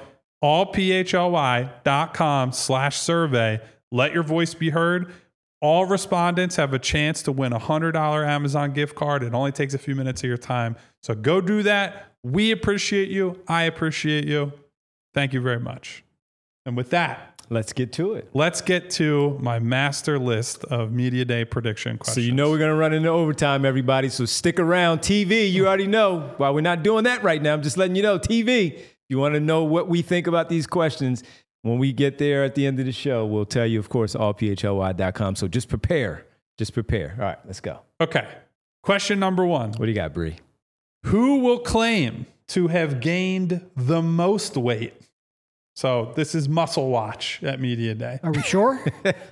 allphly.com slash survey. Let your voice be heard. All respondents have a chance to win a one hundred dollars Amazon gift card. It only takes a few minutes of your time. So go do that. We appreciate you. I appreciate you. Thank you very much. And with that, let's get to it. Let's get to my master list of Media Day prediction questions. So you know we're going to run into overtime, everybody. So stick around. T V, you already know. While we're not doing that right now, I'm just letting you know. T V, you want to know what we think about these questions. When we get there at the end of the show, we'll tell you, of course, all p h l y dot com. So just prepare. Just prepare. All right, let's go. Okay. Question number one. What do you got, Bree? Who will claim to have gained the most weight? So this is Muscle Watch at Media Day. Are we sure?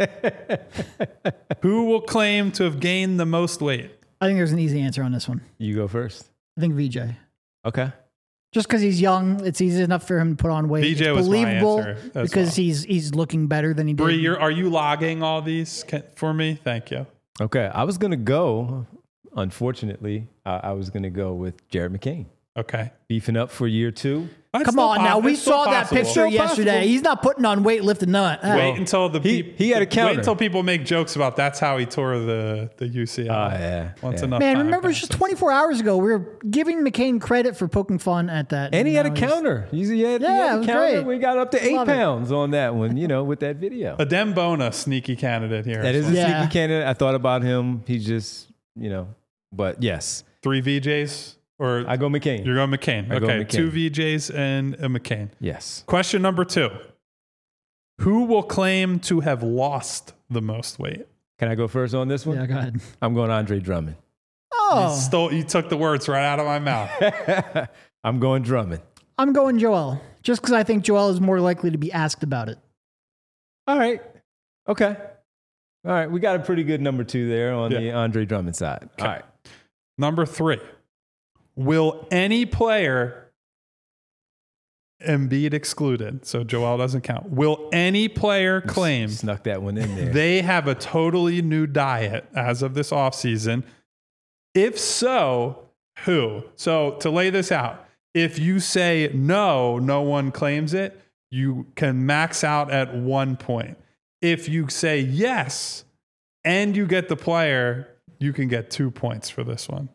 Who will claim to have gained the most weight? I think there's an easy answer on this one. You go first. I think V J. Okay. Just because he's young, it's easy enough for him to put on weight. V J it's was my believable answer as because well. he's he's looking better than he did. Bree, you're, are you logging all these can, for me? Thank you. Okay. I was going to go, unfortunately, uh, I was going to go with Jared McCain. Okay. Beefing up for year two. That's Come still on po- now. We it's still saw that possible. picture Still yesterday. possible. He's not putting on weight lifting nut. Uh, Wait until the He- peop- he had a counter. Wait until people make jokes about that's how he tore the, the U C L. Oh, yeah, Once yeah. enough Man, time remember just passes. twenty-four hours ago, we were giving McCain credit for poking fun at that. And he had a Now he's- counter. He's, he had, he Yeah, had it a was counter. great. We got up to eight Love it. pounds on that one, you know, with that video. Adem Bona, sneaky candidate here. That as is a well. Yeah. sneaky candidate. I thought about him. He's just, you know, but yes, Three V Js? Or I go McCain. you're going McCain. I go Okay, McCain. two V Js and a McCain. Yes. Question number two. Who will claim to have lost the most weight? Can I go first on this one? Yeah, go ahead. I'm going Andre Drummond. You, Oh, stole, you took the words right out of my mouth. I'm going Drummond. I'm going Joel. Just because I think Joel is more likely to be asked about it. All right. Okay. All right. We got a pretty good number two there on Yeah. the Andre Drummond side. Okay. All right. Number three. Will any player, Embiid excluded, so Joel doesn't count, will any player claim Snuck that one in there. they have a totally new diet as of this offseason? If so, who? So to lay this out, if you say no, no one claims it, you can max out at one point. If you say yes and you get the player, you can get two points for this one.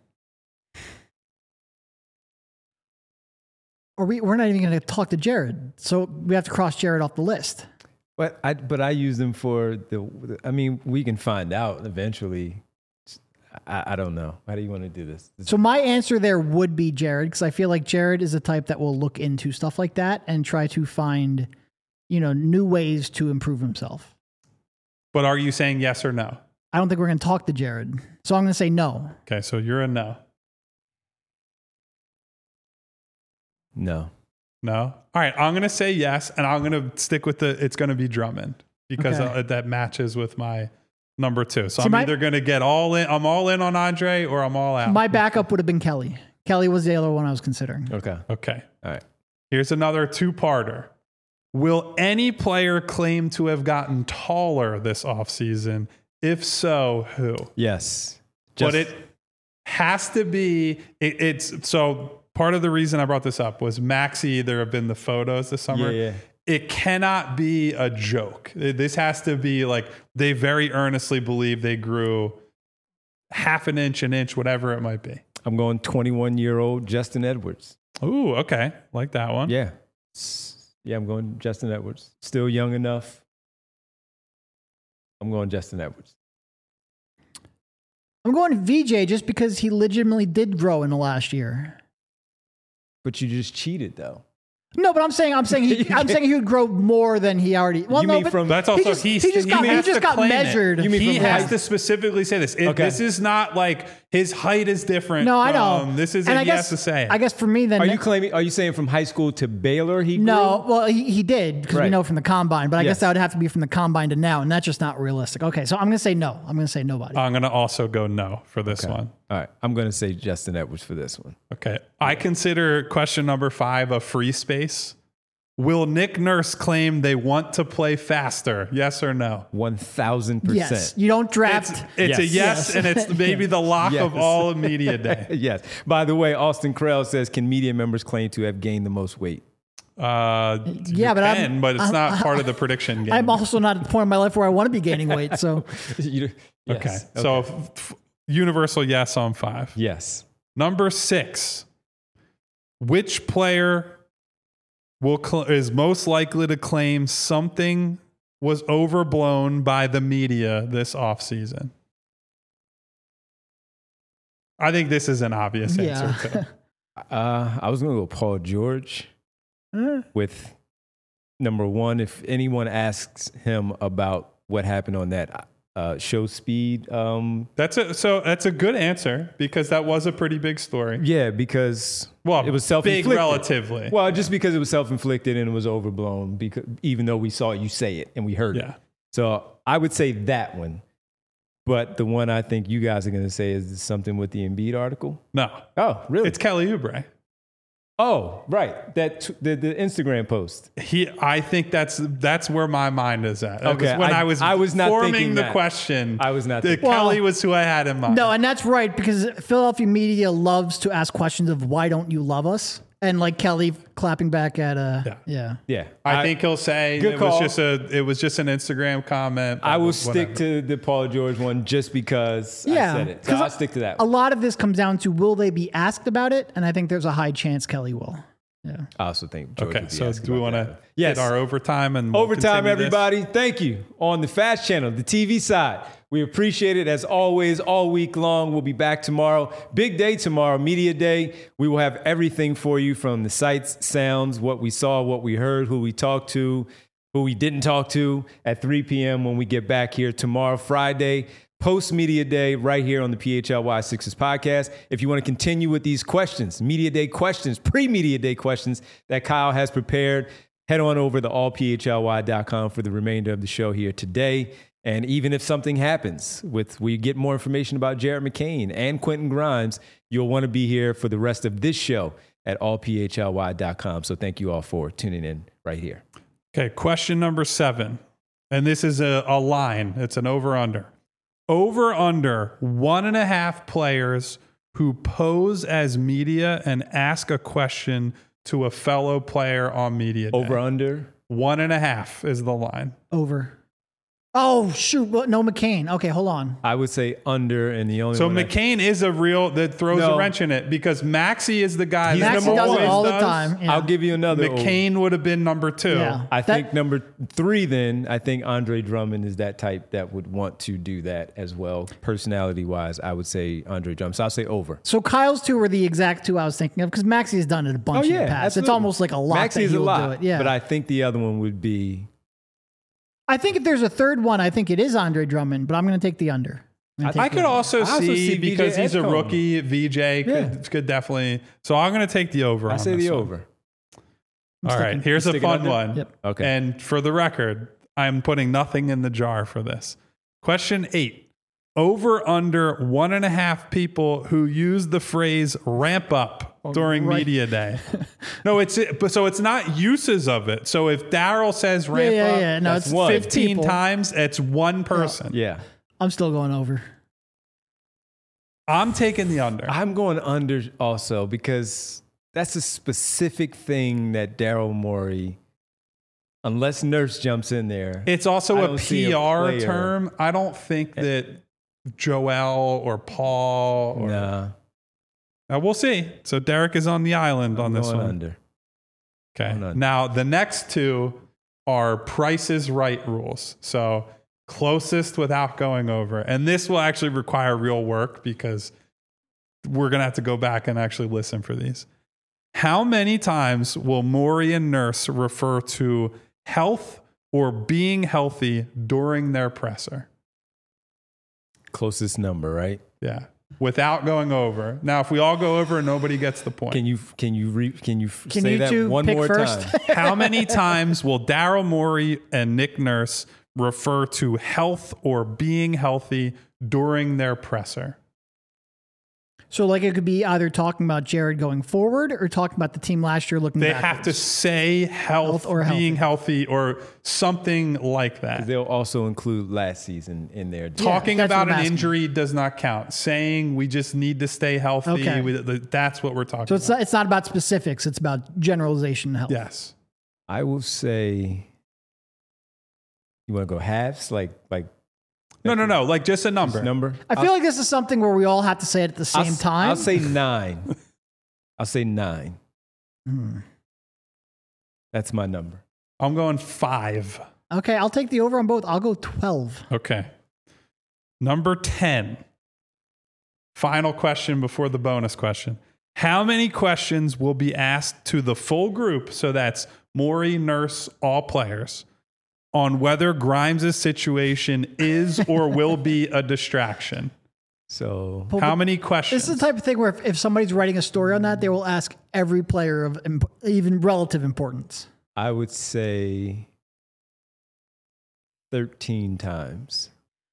Or we, we're not even going to talk to Jared. So we have to cross Jared off the list. But I but I use them for the. I mean, we can find out eventually. I, I don't know. How do you want to do this? So my answer there would be Jared, because I feel like Jared is the type that will look into stuff like that and try to find, you know, new ways to improve himself. But are you saying yes or no? I don't think we're going to talk to Jared, so I'm going to say no. Okay, so you're a no. No. No? All right, I'm going to say yes, and I'm going to stick with the, it's going to be Drummond because Okay. uh, that matches with my number two. So See, I'm my- either going to get all in, I'm all in on Andre, or I'm all out. My backup would have been Kelly. Kelly was the other one I was considering. Okay. okay. All right. Here's another two-parter. Will any player claim to have gotten taller this offseason? If so, who? Yes. but Just- it has to be, it, it's, so part of the reason I brought this up was Maxey, there have been the photos this summer. Yeah, yeah. It cannot be a joke. This has to be like, they very earnestly believe they grew half an inch, an inch, whatever it might be. I'm going twenty-one year old Justin Edwards. Ooh, okay. Like that one. Yeah. S- Yeah, I'm going Justin Edwards. Still young enough. I'm going Justin Edwards. I'm going V J just because he legitimately did grow in the last year. But you just cheated, though. No, but I'm saying I'm saying he I'm saying he would grow more than he already. Well, You no, mean but from- That's also, he just, he, he just he got he has just to got claim it. measured. You mean He from has high- to specifically say this. It, Okay. This is not like his height is different. No, I know. from- This is And it. I He guess, has to say it. I guess for me then. Are you claiming? Are you saying from high school to Baylor he grew? No, well, he, he did because we Right. know from the combine, but I Yes. guess that would have to be from the combine to now, and that's just not realistic. Okay, so I'm going to say no. I'm going to say nobody. I'm going to also go no for this Okay. one. All right. I'm going to say Justin Edwards for this one. Okay. I consider question number five a free space. Will Nick Nurse claim they want to play faster? Yes or no? one thousand yes, percent. you don't draft. It's, it's a Yes. yes, Yes. and it's maybe the lock Yes. of all of media day. Yes. By the way, Austin Krell says, can media members claim to have gained the most weight? Uh, Yeah, you but I'm- can, but it's I'm- not part of the prediction game. I'm also not at the point in my life where I want to be gaining weight. So You- yes. okay. So f- f- universal yes on five. yes. Number six. Which player will cl- is most likely to claim something was overblown by the media this offseason? I think this is an obvious Yeah. answer too. Uh, I was going to go Paul George Eh. with number one. If anyone asks him about what happened on that uh, show speed, um, That's a so that's a good answer because that was a pretty big story. yeah, because Well, it was self-inflicted. big relatively. Well, just because it was self-inflicted and it was overblown, because even though we saw you say it and we heard Yeah. it. So I would say that one. But the one I think you guys are going to say is something with the Embiid article. No, Oh, really? it's Kelly Oubre. oh, right. That t- the, the Instagram post. He, I think that's that's where my mind is at. That Okay, was when I- I, was I was not forming thinking the that. question. I was not The thinking- Kelly Well, was who I had in mind. no, and that's right because Philadelphia media loves to ask questions of why don't you love us, and like Kelly clapping back at uh Yeah. yeah. Yeah. I, think he'll say Good it was call. just a it was just an Instagram comment. I will whatever. stick to the Paul George one just because Yeah, I said it. So 'cause I'll stick to that A one. lot of this comes down to will they be asked about it, and I think there's a high chance Kelly will. Yeah. I also think George Okay, would be so asking do we about want that to one. Yes. hit our overtime and we'll Overtime, continue this? everybody. Thank you. On the Fast Channel, the T V side. We appreciate it as always, all week long. We'll be back tomorrow. Big day tomorrow, Media Day. We will have everything for you from the sights, sounds, what we saw, what we heard, who we talked to, who we didn't talk to at three p.m. when we get back here tomorrow, Friday. Post Media Day right here on the P H L Y Sixers podcast. If you want to continue with these questions, Media Day questions, pre-Media Day questions that Kyle has prepared, head on over to all p h l y dot com for the remainder of the show here today. And even if something happens with, we get more information about Jared McCain and Quentin Grimes, you'll want to be here for the rest of this show at all p h l y dot com. So thank you all for tuning in right here. Okay, question number seven. And this is a, a line. It's an over-under. Over-under one and a half players who pose as media and ask a question to a fellow player on media day. Over under. One and a half is the line. Over. Oh shoot! Well, no, McCain. Okay, hold on. I would say under, and the only So one I- McCain is a real that throws No. a wrench in it because Maxey is the guy He's that Maxey number does one. it all the does. time. Yeah. I'll give you another. over. McCain would have been number two. Yeah. I That- think number three, then, I think Andre Drummond is that type that would want to do that as well. Personality wise, I would say Andre Drummond. So I'll say over. So Kyle's two were the exact two I was thinking of because Maxey has done it a bunch in the past. It's absolutely. almost like a lot. Maxey that is he a will lot. do it. Yeah. But I think the other one would be. I think if there's a third one, I think it is Andre Drummond, but I'm going to take the under. I'm gonna take I the could under. also I also see, see V J because he's a Edgecombe. rookie. V J could, Yeah. could definitely. So I'm going to take the over. I on say this the one. over. I'm All right, sticking- here's a sticking fun under? one. Yep. Okay. And for the record, I'm putting nothing in the jar for this. Question eight. Over under one and a half people who use the phrase ramp up during right. media day. No, it's but so it's not uses of it. So if Daryl says Yeah, ramp yeah, up yeah. No, that's it's one. fifteen people. times, it's one person. Yeah. I'm still going over. I'm taking the under. I'm going under also because that's a specific thing that Daryl Morey, unless Nurse jumps in there. It's also I a don't see P a R player. term. I don't think that Joel or Paul or Nah, Uh, we'll see. So Derek is on the island I'm on this going one. under. Okay. Going under. Now the next two are Price is Right rules. So closest without going over, and this will actually require real work because we're gonna have to go back and actually listen for these. How many times will Maury and Nurse refer to health or being healthy during their presser? Closest number, right? Yeah. Without going over. Now, if we all go over, nobody gets the point. Can you can you re, can you f- Can say you that two one pick more first? time? How many times will Daryl Morey and Nick Nurse refer to health or being healthy during their presser? So, like, it could be either talking about Jared going forward or talking about the team last year looking They backwards. have to say health, Health or being healthy, or something like that. They'll also include last season in there. Talking that's what about I'm an asking. injury does not count. Saying we just need to stay healthy, Okay. we- that's what we're talking So it's about. not, it's not about specifics. It's about generalization and health. Yes. I will say. You want to go halves, like like No, no, no. Like just a number. number? I feel like this is something where we all have to say it at the I'll same s- time. I'll say nine. I'll say nine. Hmm. That's my number. I'm going five. Okay, I'll take the over on both. I'll go twelve. Okay. Number ten. Final question before the bonus question. How many questions will be asked to the full group? So that's Maury, Nurse, all players, on whether Grimes' situation is or will be a distraction. So Well, How but many questions? This is the type of thing where if, if somebody's writing a story on that, they will ask every player of imp- even relative importance. I would say thirteen times.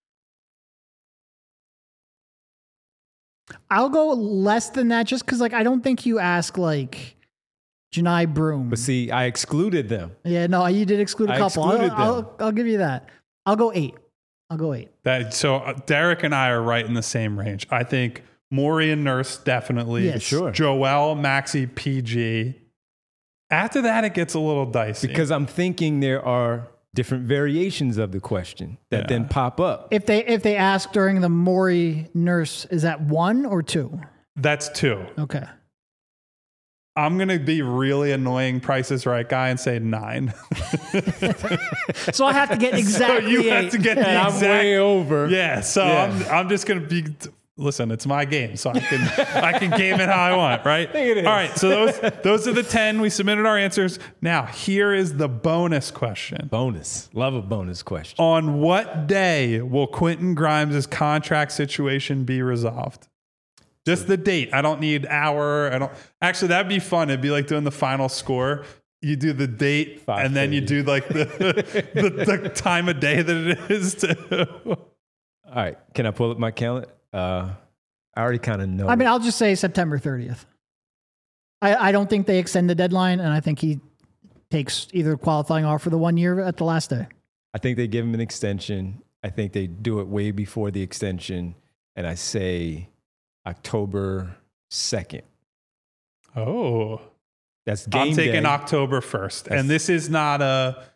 I'll go less than that just because, like, I don't think you ask, like, Janai Broom. But see, I excluded them. Yeah, no, you did exclude a I couple. I'll, excluded them. I'll, I'll give you that. I'll go eight. I'll go eight. That, so uh, Derek and I are right in the same range. I think Maury and Nurse definitely. Yes. Sure. Joel, Maxey, P G. After that, it gets a little dicey. Because I'm thinking there are different variations of the question that Yeah. then pop up. If they if they ask during the Maury Nurse, is that one or two? That's two. Okay. I'm going to be really annoying Price is Right guy and say nine. So I have to get exactly so you eight. have to get the And I'm exact. way over. Yeah, so Yeah. I'm I'm just gonna be. Listen, it's my game, so I can I can game it how I want, right? I think it is. All right, so those those are the ten. We submitted our answers. Now here is the bonus question: Bonus. Love a bonus question. on what day will Quentin Grimes' contract situation be resolved? Just the date. I don't need hour. I don't. Actually, that'd be fun. It'd be like doing the final score. You do the date, and then you do like the, the the time of day that it is. To All right. Can I pull up my calendar? Uh, I already kind of know. I mean, I'll just say September thirtieth. I, I don't think they extend the deadline, and I think he takes either qualifying offer the one year at the last day. I think they give him an extension. I think they do it way before the extension. And I say October second. oh. That's game I'm taking day. October first. That's- And this is not a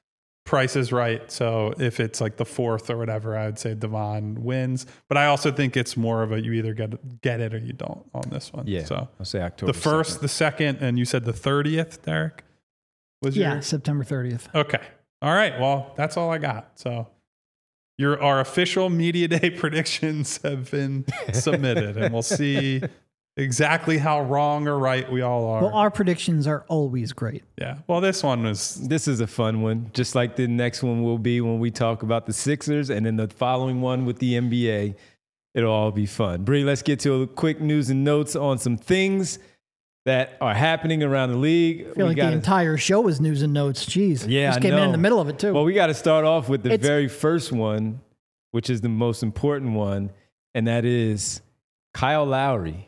Price is right. So if it's like the fourth or whatever, I would say Devon wins. But I also think it's more of a you either get get it or you don't on this one. Yeah. So I'll say October. the first, second. the second, and you said the thirtieth, Derek? Was Yeah, your... September thirtieth. Okay. All right. Well, that's all I got. So your our official media day predictions have been submitted, and we'll see exactly how wrong or right we all are. Well, our predictions are always great. Yeah. Well, this one was This is a fun one, just like the next one will be when we talk about the Sixers, and then the following one with the N B A. It'll all be fun. Bree, let's get to a quick news and notes on some things that are happening around the league. I feel like the entire show was news and notes. Jeez. Yeah, Just I came in know. in the middle of it, too. Well, we got to start off with the It's- very first one, which is the most important one, and that is Kyle Lowry,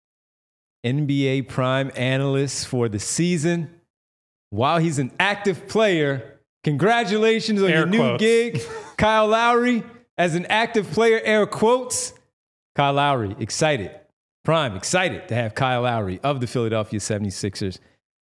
N B A prime analyst for the season. While he's an active player, congratulations on Air your new quotes. gig, Kyle Lowry. As an active player, air quotes, Kyle Lowry, excited, prime, excited to have Kyle Lowry of the Philadelphia seventy-sixers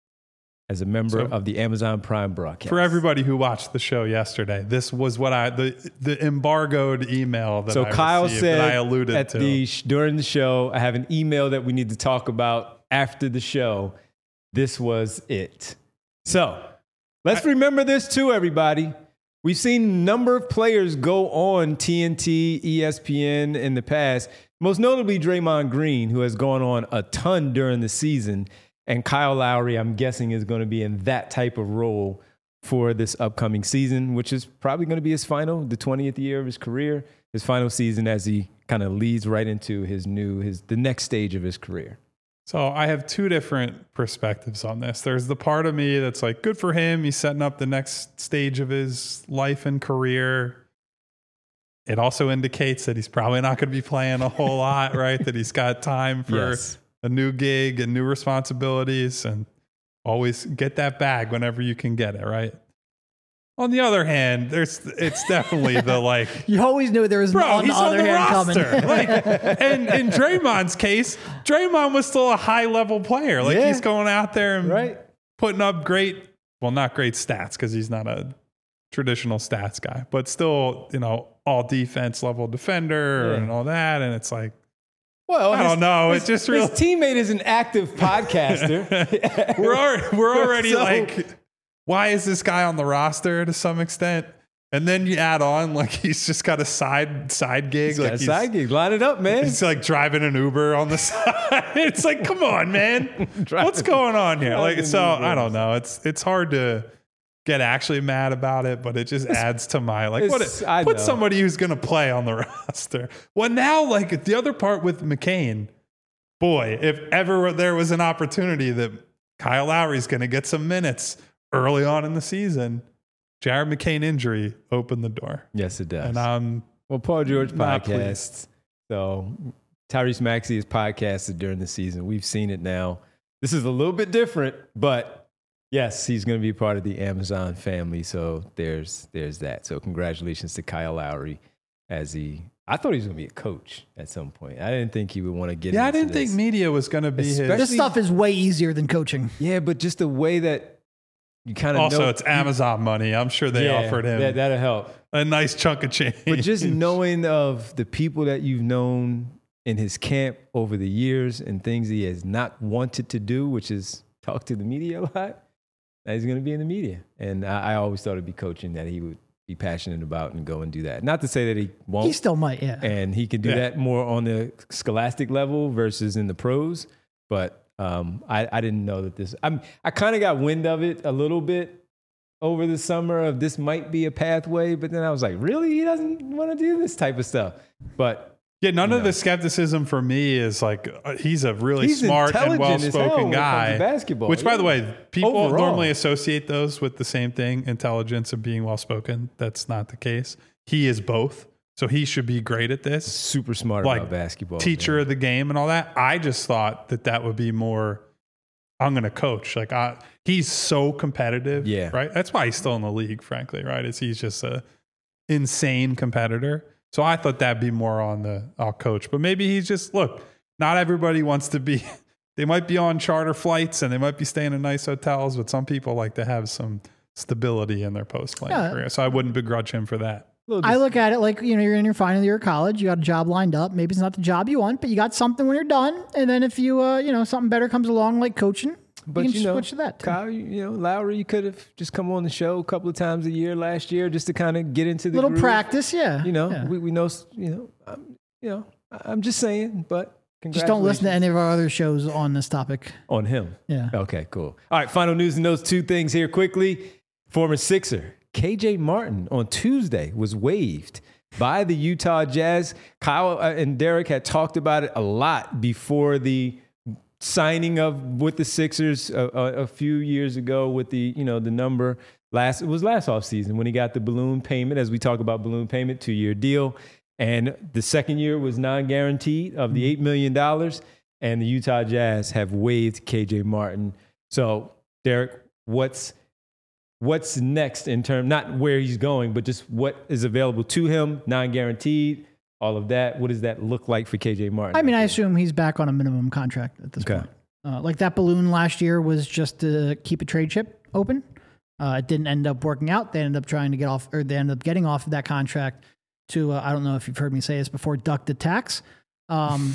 as a member So- of the Amazon Prime broadcast. for everybody who watched the show yesterday. This was what I the the embargoed email that So I Kyle received said that I alluded at to. the sh- during the show, I have an email that we need to talk about after the show. This was it. So let's remember this too, everybody. We've seen a number of players go on T N T, E S P N in the past, most notably Draymond Green, who has gone on a ton during the season. And Kyle Lowry, I'm guessing, is going to be in that type of role for this upcoming season, which is probably going to be his final, the twentieth year of his career, his final season as he kind of leads right into his new, his the next stage of his career. So I have two different perspectives on this. There's the part of me that's like, good for him. He's setting up the next stage of his life and career. It also indicates that he's probably not going to be playing a whole lot, right? That he's got time for Yes. a new gig and new responsibilities, and always get that bag whenever you can get it, right? On the other hand, there's it's definitely the like, You always knew there was bro, on he's the other on the hand roster. coming. Like, and in Draymond's case, Draymond was still a high level player. Like Yeah. he's going out there and Right? putting up great, well, not great stats because he's not a traditional stats guy, but still, you know, all defense level defender Yeah. and all that. And it's like, Well, I his- don't know. His, It's just his real. teammate is an active podcaster. we're al- we're already So- like, why is this guy on the roster to some extent? And then you add on like he's just got a side side gig, He's like got a he's, side gig. Line it up, man. he's like driving an Uber on the side. It's like, come on, man, what's going on here? Like, Driving so Uber. I don't know. It's it's hard to get actually mad about it, but it just adds to my like what it's- it, I put know. somebody who's going to play on the roster. Well, now like the other part with McCain, boy, if ever there was an opportunity that Kyle Lowry's going to get some minutes early on in the season, Jared McCain injury opened the door. Yes, it does. And I'm Well, Paul George Not podcasts. So Tyrese Maxey is podcasted during the season. We've seen it now. This is a little bit different, but yes, he's going to be part of the Amazon family. So there's there's that. So congratulations to Kyle Lowry as he. I thought he was going to be a coach at some point. I didn't think he would want to get. yeah, I into didn't this. think media was going to be Especially- his. This stuff is way easier than coaching. Yeah, but just the way that you kind of Also, know, it's Amazon money. I'm sure they yeah, offered him that, that'll help. a nice chunk of change. But just knowing of the people that you've known in his camp over the years and things he has not wanted to do, which is talk to the media a lot, now he's going to be in the media. And I, I always thought it'd be coaching that he would be passionate about and go and do that. Not to say that he won't. He still might, yeah. and he can do Yeah. that more on the scholastic level versus in the pros. But um, I, I didn't know that this. I'm, I kind of got wind of it a little bit over the summer of this might be a pathway, but then I was like, really, he doesn't want to do this type of stuff. But Yeah, none You of know. the skepticism for me is like uh, he's a really He's smart and intelligent as hell well-spoken when it comes to guy. basketball, Which, by yeah. the way, people Overall. normally associate those with the same thing: intelligence and being well-spoken. That's not the case. He is both, so he should be great at this. super smart Like, about basketball. Teacher man. of the game and all that. I just thought that that would be more. I'm going to coach. Like I, he's so competitive. Yeah. Right. That's why he's still in the league. Frankly, right? Is he's just a insane competitor. So I thought that'd be more on the I'll coach. But maybe he's just look. Not everybody wants to be. They might be on charter flights and they might be staying in nice hotels, but some people like to have some stability in their post-playing Yeah. career. So I wouldn't begrudge him for that. I look at it like, you know, you're in your final year of college, you got a job lined up. Maybe it's not the job you want, but you got something when you're done. And then if you, uh, you know, something better comes along like coaching, But you you, can know, switch to that. too. Kyle, you, you know, Lowry, you could have just come on the show a couple of times a year last year just to kind of get into the Little groove. practice, yeah. You know, yeah. we, we know, you know, um, you know, I- I'm just saying, but Just don't listen to congratulations any of our other shows on this topic. on him. Yeah. Okay, cool. All right, final news and those two things here quickly. Former Sixer K J Martin on Tuesday was waived by the Utah Jazz. Kyle uh, and Derek had talked about it a lot before the signing of with the Sixers a, a, a few years ago with the, you know, the number last, it was last offseason when he got the balloon payment, as we talk about balloon payment, two-year deal. And the second year was non-guaranteed of the eight million dollars. And the Utah Jazz have waived K J Martin. So, Derek, what's what's next in terms, not where he's going, but just what is available to him, non-guaranteed, all of that. What does that look like for K J Martin? I mean, I assume he's back on a minimum contract at this Okay. point. Uh, like that balloon last year was just to keep a trade chip open. Uh, it didn't end up working out. They ended up trying to get off, or they ended up getting off of that contract to, uh, I don't know if you've heard me say this before, duck the tax. Um,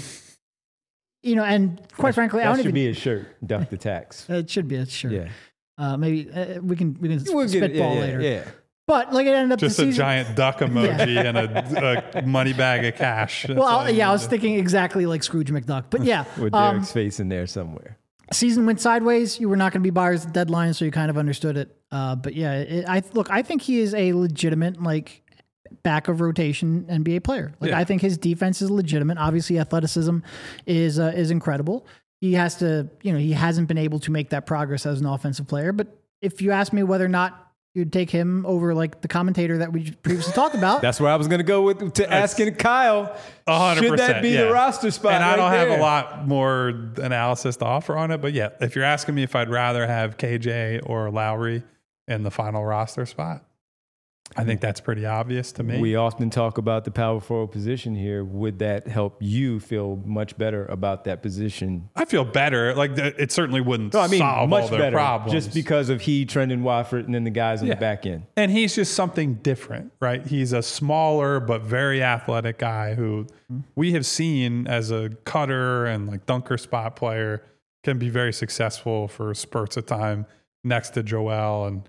you know, and quite frankly, I that don't should even, be a shirt, duck the tax. it should be a shirt. Yeah. Uh, maybe uh, we can we can We'll get it. spitball Yeah, yeah, later. yeah. But like it ended up Just the a season, giant duck emoji and a, a money bag of cash. That's Well, all I'll, you yeah, I need was to- thinking exactly like Scrooge McDuck. But yeah, With um, Derek's face in there somewhere. season went sideways. You were not going to be buyers at the deadline, so you kind of understood it. Uh, but yeah, it, I look, I think he is a legitimate like back of rotation N B A player. Like Yeah. I think his defense is legitimate. Obviously, athleticism is uh, is incredible. He has to, you know, he hasn't been able to make that progress as an offensive player. But if you ask me whether or not you'd take him over like the commentator that we previously talked about, That's where I was going to go with to asking Kyle. A hundred Should that percent, be yeah. the roster spot? And I right don't have there? a lot more analysis to offer on it, but yeah, if you're asking me if I'd rather have K J or Lowry in the final roster spot, I think that's pretty obvious to me. We often talk about the power forward position here. Would that help you feel much better about that position? I feel better. Like th- it certainly wouldn't No, I mean solve much all their better, problems. just because of he, Trendon Watford, and then the guys on Yeah. the back end. And he's just something different, right? He's a smaller but very athletic guy who we have seen as a cutter and like dunker spot player can be very successful for spurts of time next to Joel. And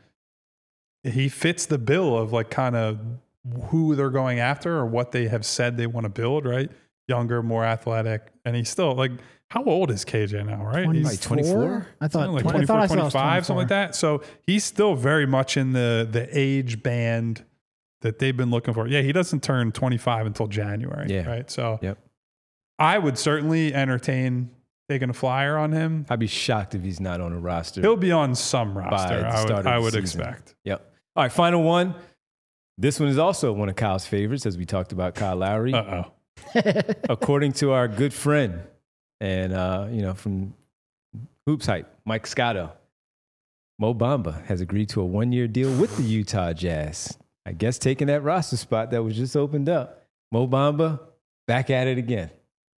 he fits the bill of like kind of who they're going after or what they have said they want to build, right? Younger, more athletic. And he's still like, how old is K J now, right? He's Like twenty-four? I thought, like twenty, I twenty-four, thought I saw it was twenty-five, something like twenty-four. that. So he's still very much in the the age band that they've been looking for. Yeah, he doesn't turn twenty-five until January, Yeah. right? So Yep. I would certainly entertain taking a flyer on him. I'd be shocked if he's not on a roster. He'll be on some roster, the I would, start of I the would season. expect. Yep. All right, final one. This one is also one of Kyle's favorites, as we talked about Kyle Lowry. Uh-oh. According to our good friend and, uh, you know, from Hoops Hype, Mike Scotto, Mo Bamba has agreed to a one-year deal with the Utah Jazz. I guess taking that roster spot that was just opened up. Mo Bamba, back at it again.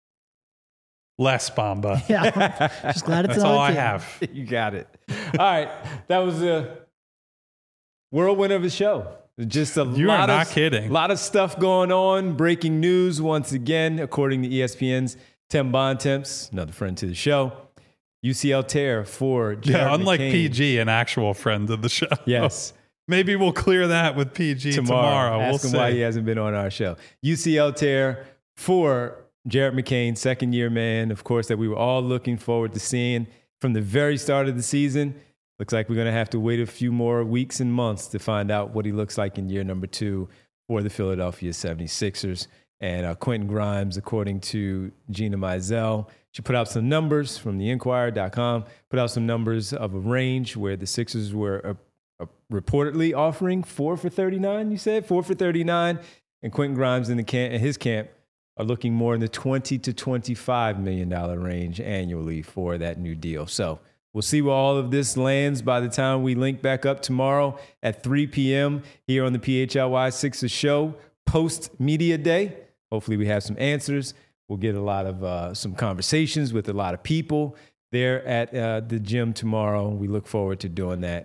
Less Bamba. Yeah, just glad it's That's another all I team. have. You got it. All right. That was a whirlwind of a show. Just a You lot are not of, kidding. lot of stuff going on. Breaking news once again, according to E S P N's Tim Bontemps, another friend to the show. U C L tear for Jared Yeah, unlike McCain. P G, an actual friend of the show. Yes. Maybe we'll clear that with P G Tomorrow. tomorrow. We'll Ask him see. why he hasn't been on our show. U C L tear for Jared McCain, second year man, of course, that we were all looking forward to seeing from the very start of the season. Looks like we're going to have to wait a few more weeks and months to find out what he looks like in year number two for the Philadelphia seventy-sixers. And uh, Quentin Grimes, according to Gina Mizell, she put out some numbers from the Inquirer dot com, put out some numbers of a range where the Sixers were uh, uh, reportedly offering four for thirty-nine, you said? Four for thirty-nine. And Quentin Grimes in the camp, in his camp are looking more in the twenty to twenty-five million dollars range annually for that new deal. So we'll see where all of this lands by the time we link back up tomorrow at three p.m. here on the P H L Y Sixers show, post-media day. Hopefully we have some answers. We'll get a lot of uh, some conversations with a lot of people there at uh, the gym tomorrow. We look forward to doing that.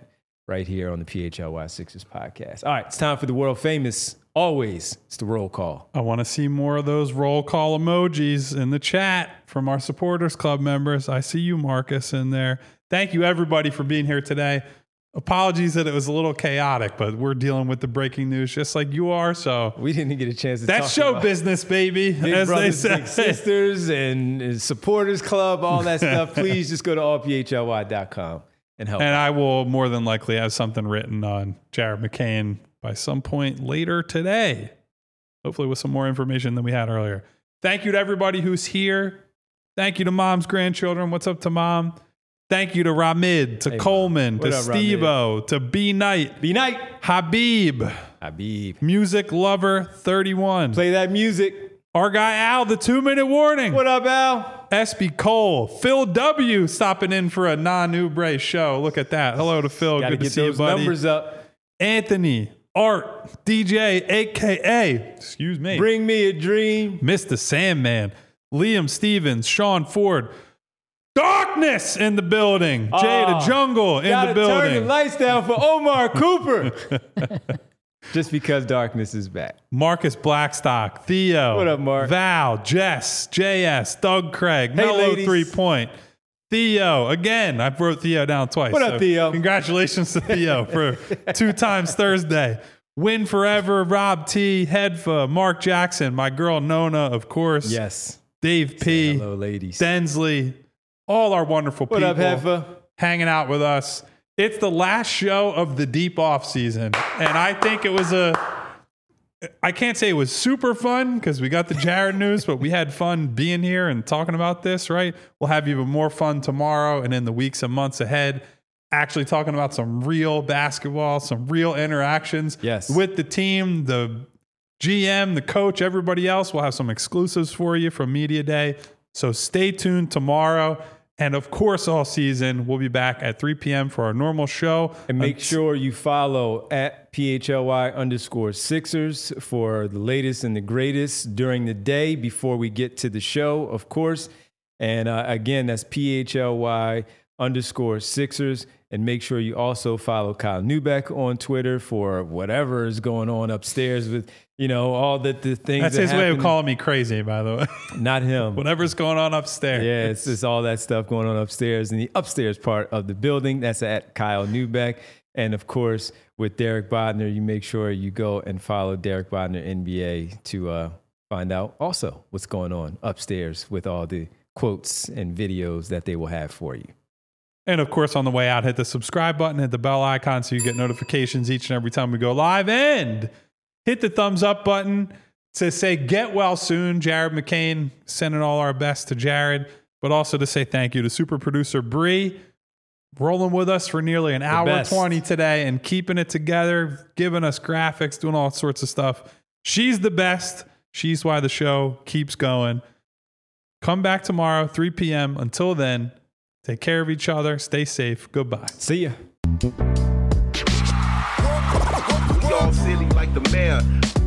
right here on the P H L Y Sixers podcast. All right, it's time for the world famous, always, it's the roll call. I want to see more of those roll call emojis in the chat from our supporters club members. I see you, Marcus, in there. Thank you, everybody, for being here today. Apologies that it was a little chaotic, but we're dealing with the breaking news just like you are. So we didn't get a chance to that's talk show about business, baby. Big as brothers, they say. big sisters, and, and supporters club, all that stuff. Please just go to all p h l y dot com and help. And out. I will more than likely have something written on Jared McCain by some point later today. Hopefully with some more information than we had earlier. Thank you to everybody who's here. Thank you to Mom's grandchildren. What's up to Mom? Thank you to Ramid, to Hey, Coleman, to up, Steve-O, to B Knight, B Night, Habib, Habib, Music Lover thirty-one. play that music. Our guy Al, the two-minute warning. What up, Al? S B Cole, Phil W. stopping in for a non-Ubre show. Look at that. Hello to Phil. Got to Good to get see you, those buddy. numbers up. Anthony, Art, D J, a k a. Excuse me. Bring me a dream. Mister Sandman, Liam Stevens, Sean Ford. Darkness in the building. Oh, Jay the Jungle in Gotta the building. turn the lights down for Omar Cooper. Just because darkness is back. Marcus Blackstock, Theo. What up, Mark? Val, Jess, J S, Doug Craig, Hey, Mellow ladies. Three Point. Theo, again, I wrote Theo down twice. What up, so Theo? Congratulations to Theo for two times Thursday. Win Forever, Rob T, Hedfa, Mark Jackson, my girl Nona, of course. Yes. Dave P, Hello, ladies. Densley, all our wonderful What people up, Heffa? hanging out with us. It's the last show of the deep off season, and I think it was a. I can't say it was super fun because we got the Jared news, but we had fun being here and talking about this. Right? We'll have even more fun tomorrow and in the weeks and months ahead. Actually, talking about some real basketball, some real interactions Yes. with the team, the G M, the coach, everybody else. We'll have some exclusives for you from Media Day. So stay tuned tomorrow. And of course, all season, we'll be back at three p.m. for our normal show. And make Unt- sure you follow at P H L Y underscore Sixers for the latest and the greatest during the day before we get to the show, of course. And uh, again, that's P H L Y underscore Sixers. And make sure you also follow Kyle Neubeck on Twitter for whatever is going on upstairs with, you know, all the, the things That's that his way of happen. calling me crazy, by the way. Not him. Whatever's going on upstairs. Yeah, it's just all that stuff going on upstairs in the upstairs part of the building. That's at Kyle Neubeck. And of course, with Derek Bodner, you make sure you go and follow Derek Bodner N B A to uh, find out also what's going on upstairs with all the quotes and videos that they will have for you. And of course, on the way out, hit the subscribe button, hit the bell icon so you get notifications each and every time we go live. And hit the thumbs up button to say get well soon. Jared McCain, sending all our best to Jared, but also to say thank you to super producer Bree, rolling with us for nearly an hour best. twenty today and keeping it together, giving us graphics, doing all sorts of stuff. She's the best. She's why the show keeps going. Come back tomorrow, three p.m. Until then, take care of each other. Stay safe. Goodbye. See ya. We all silly like the mayor.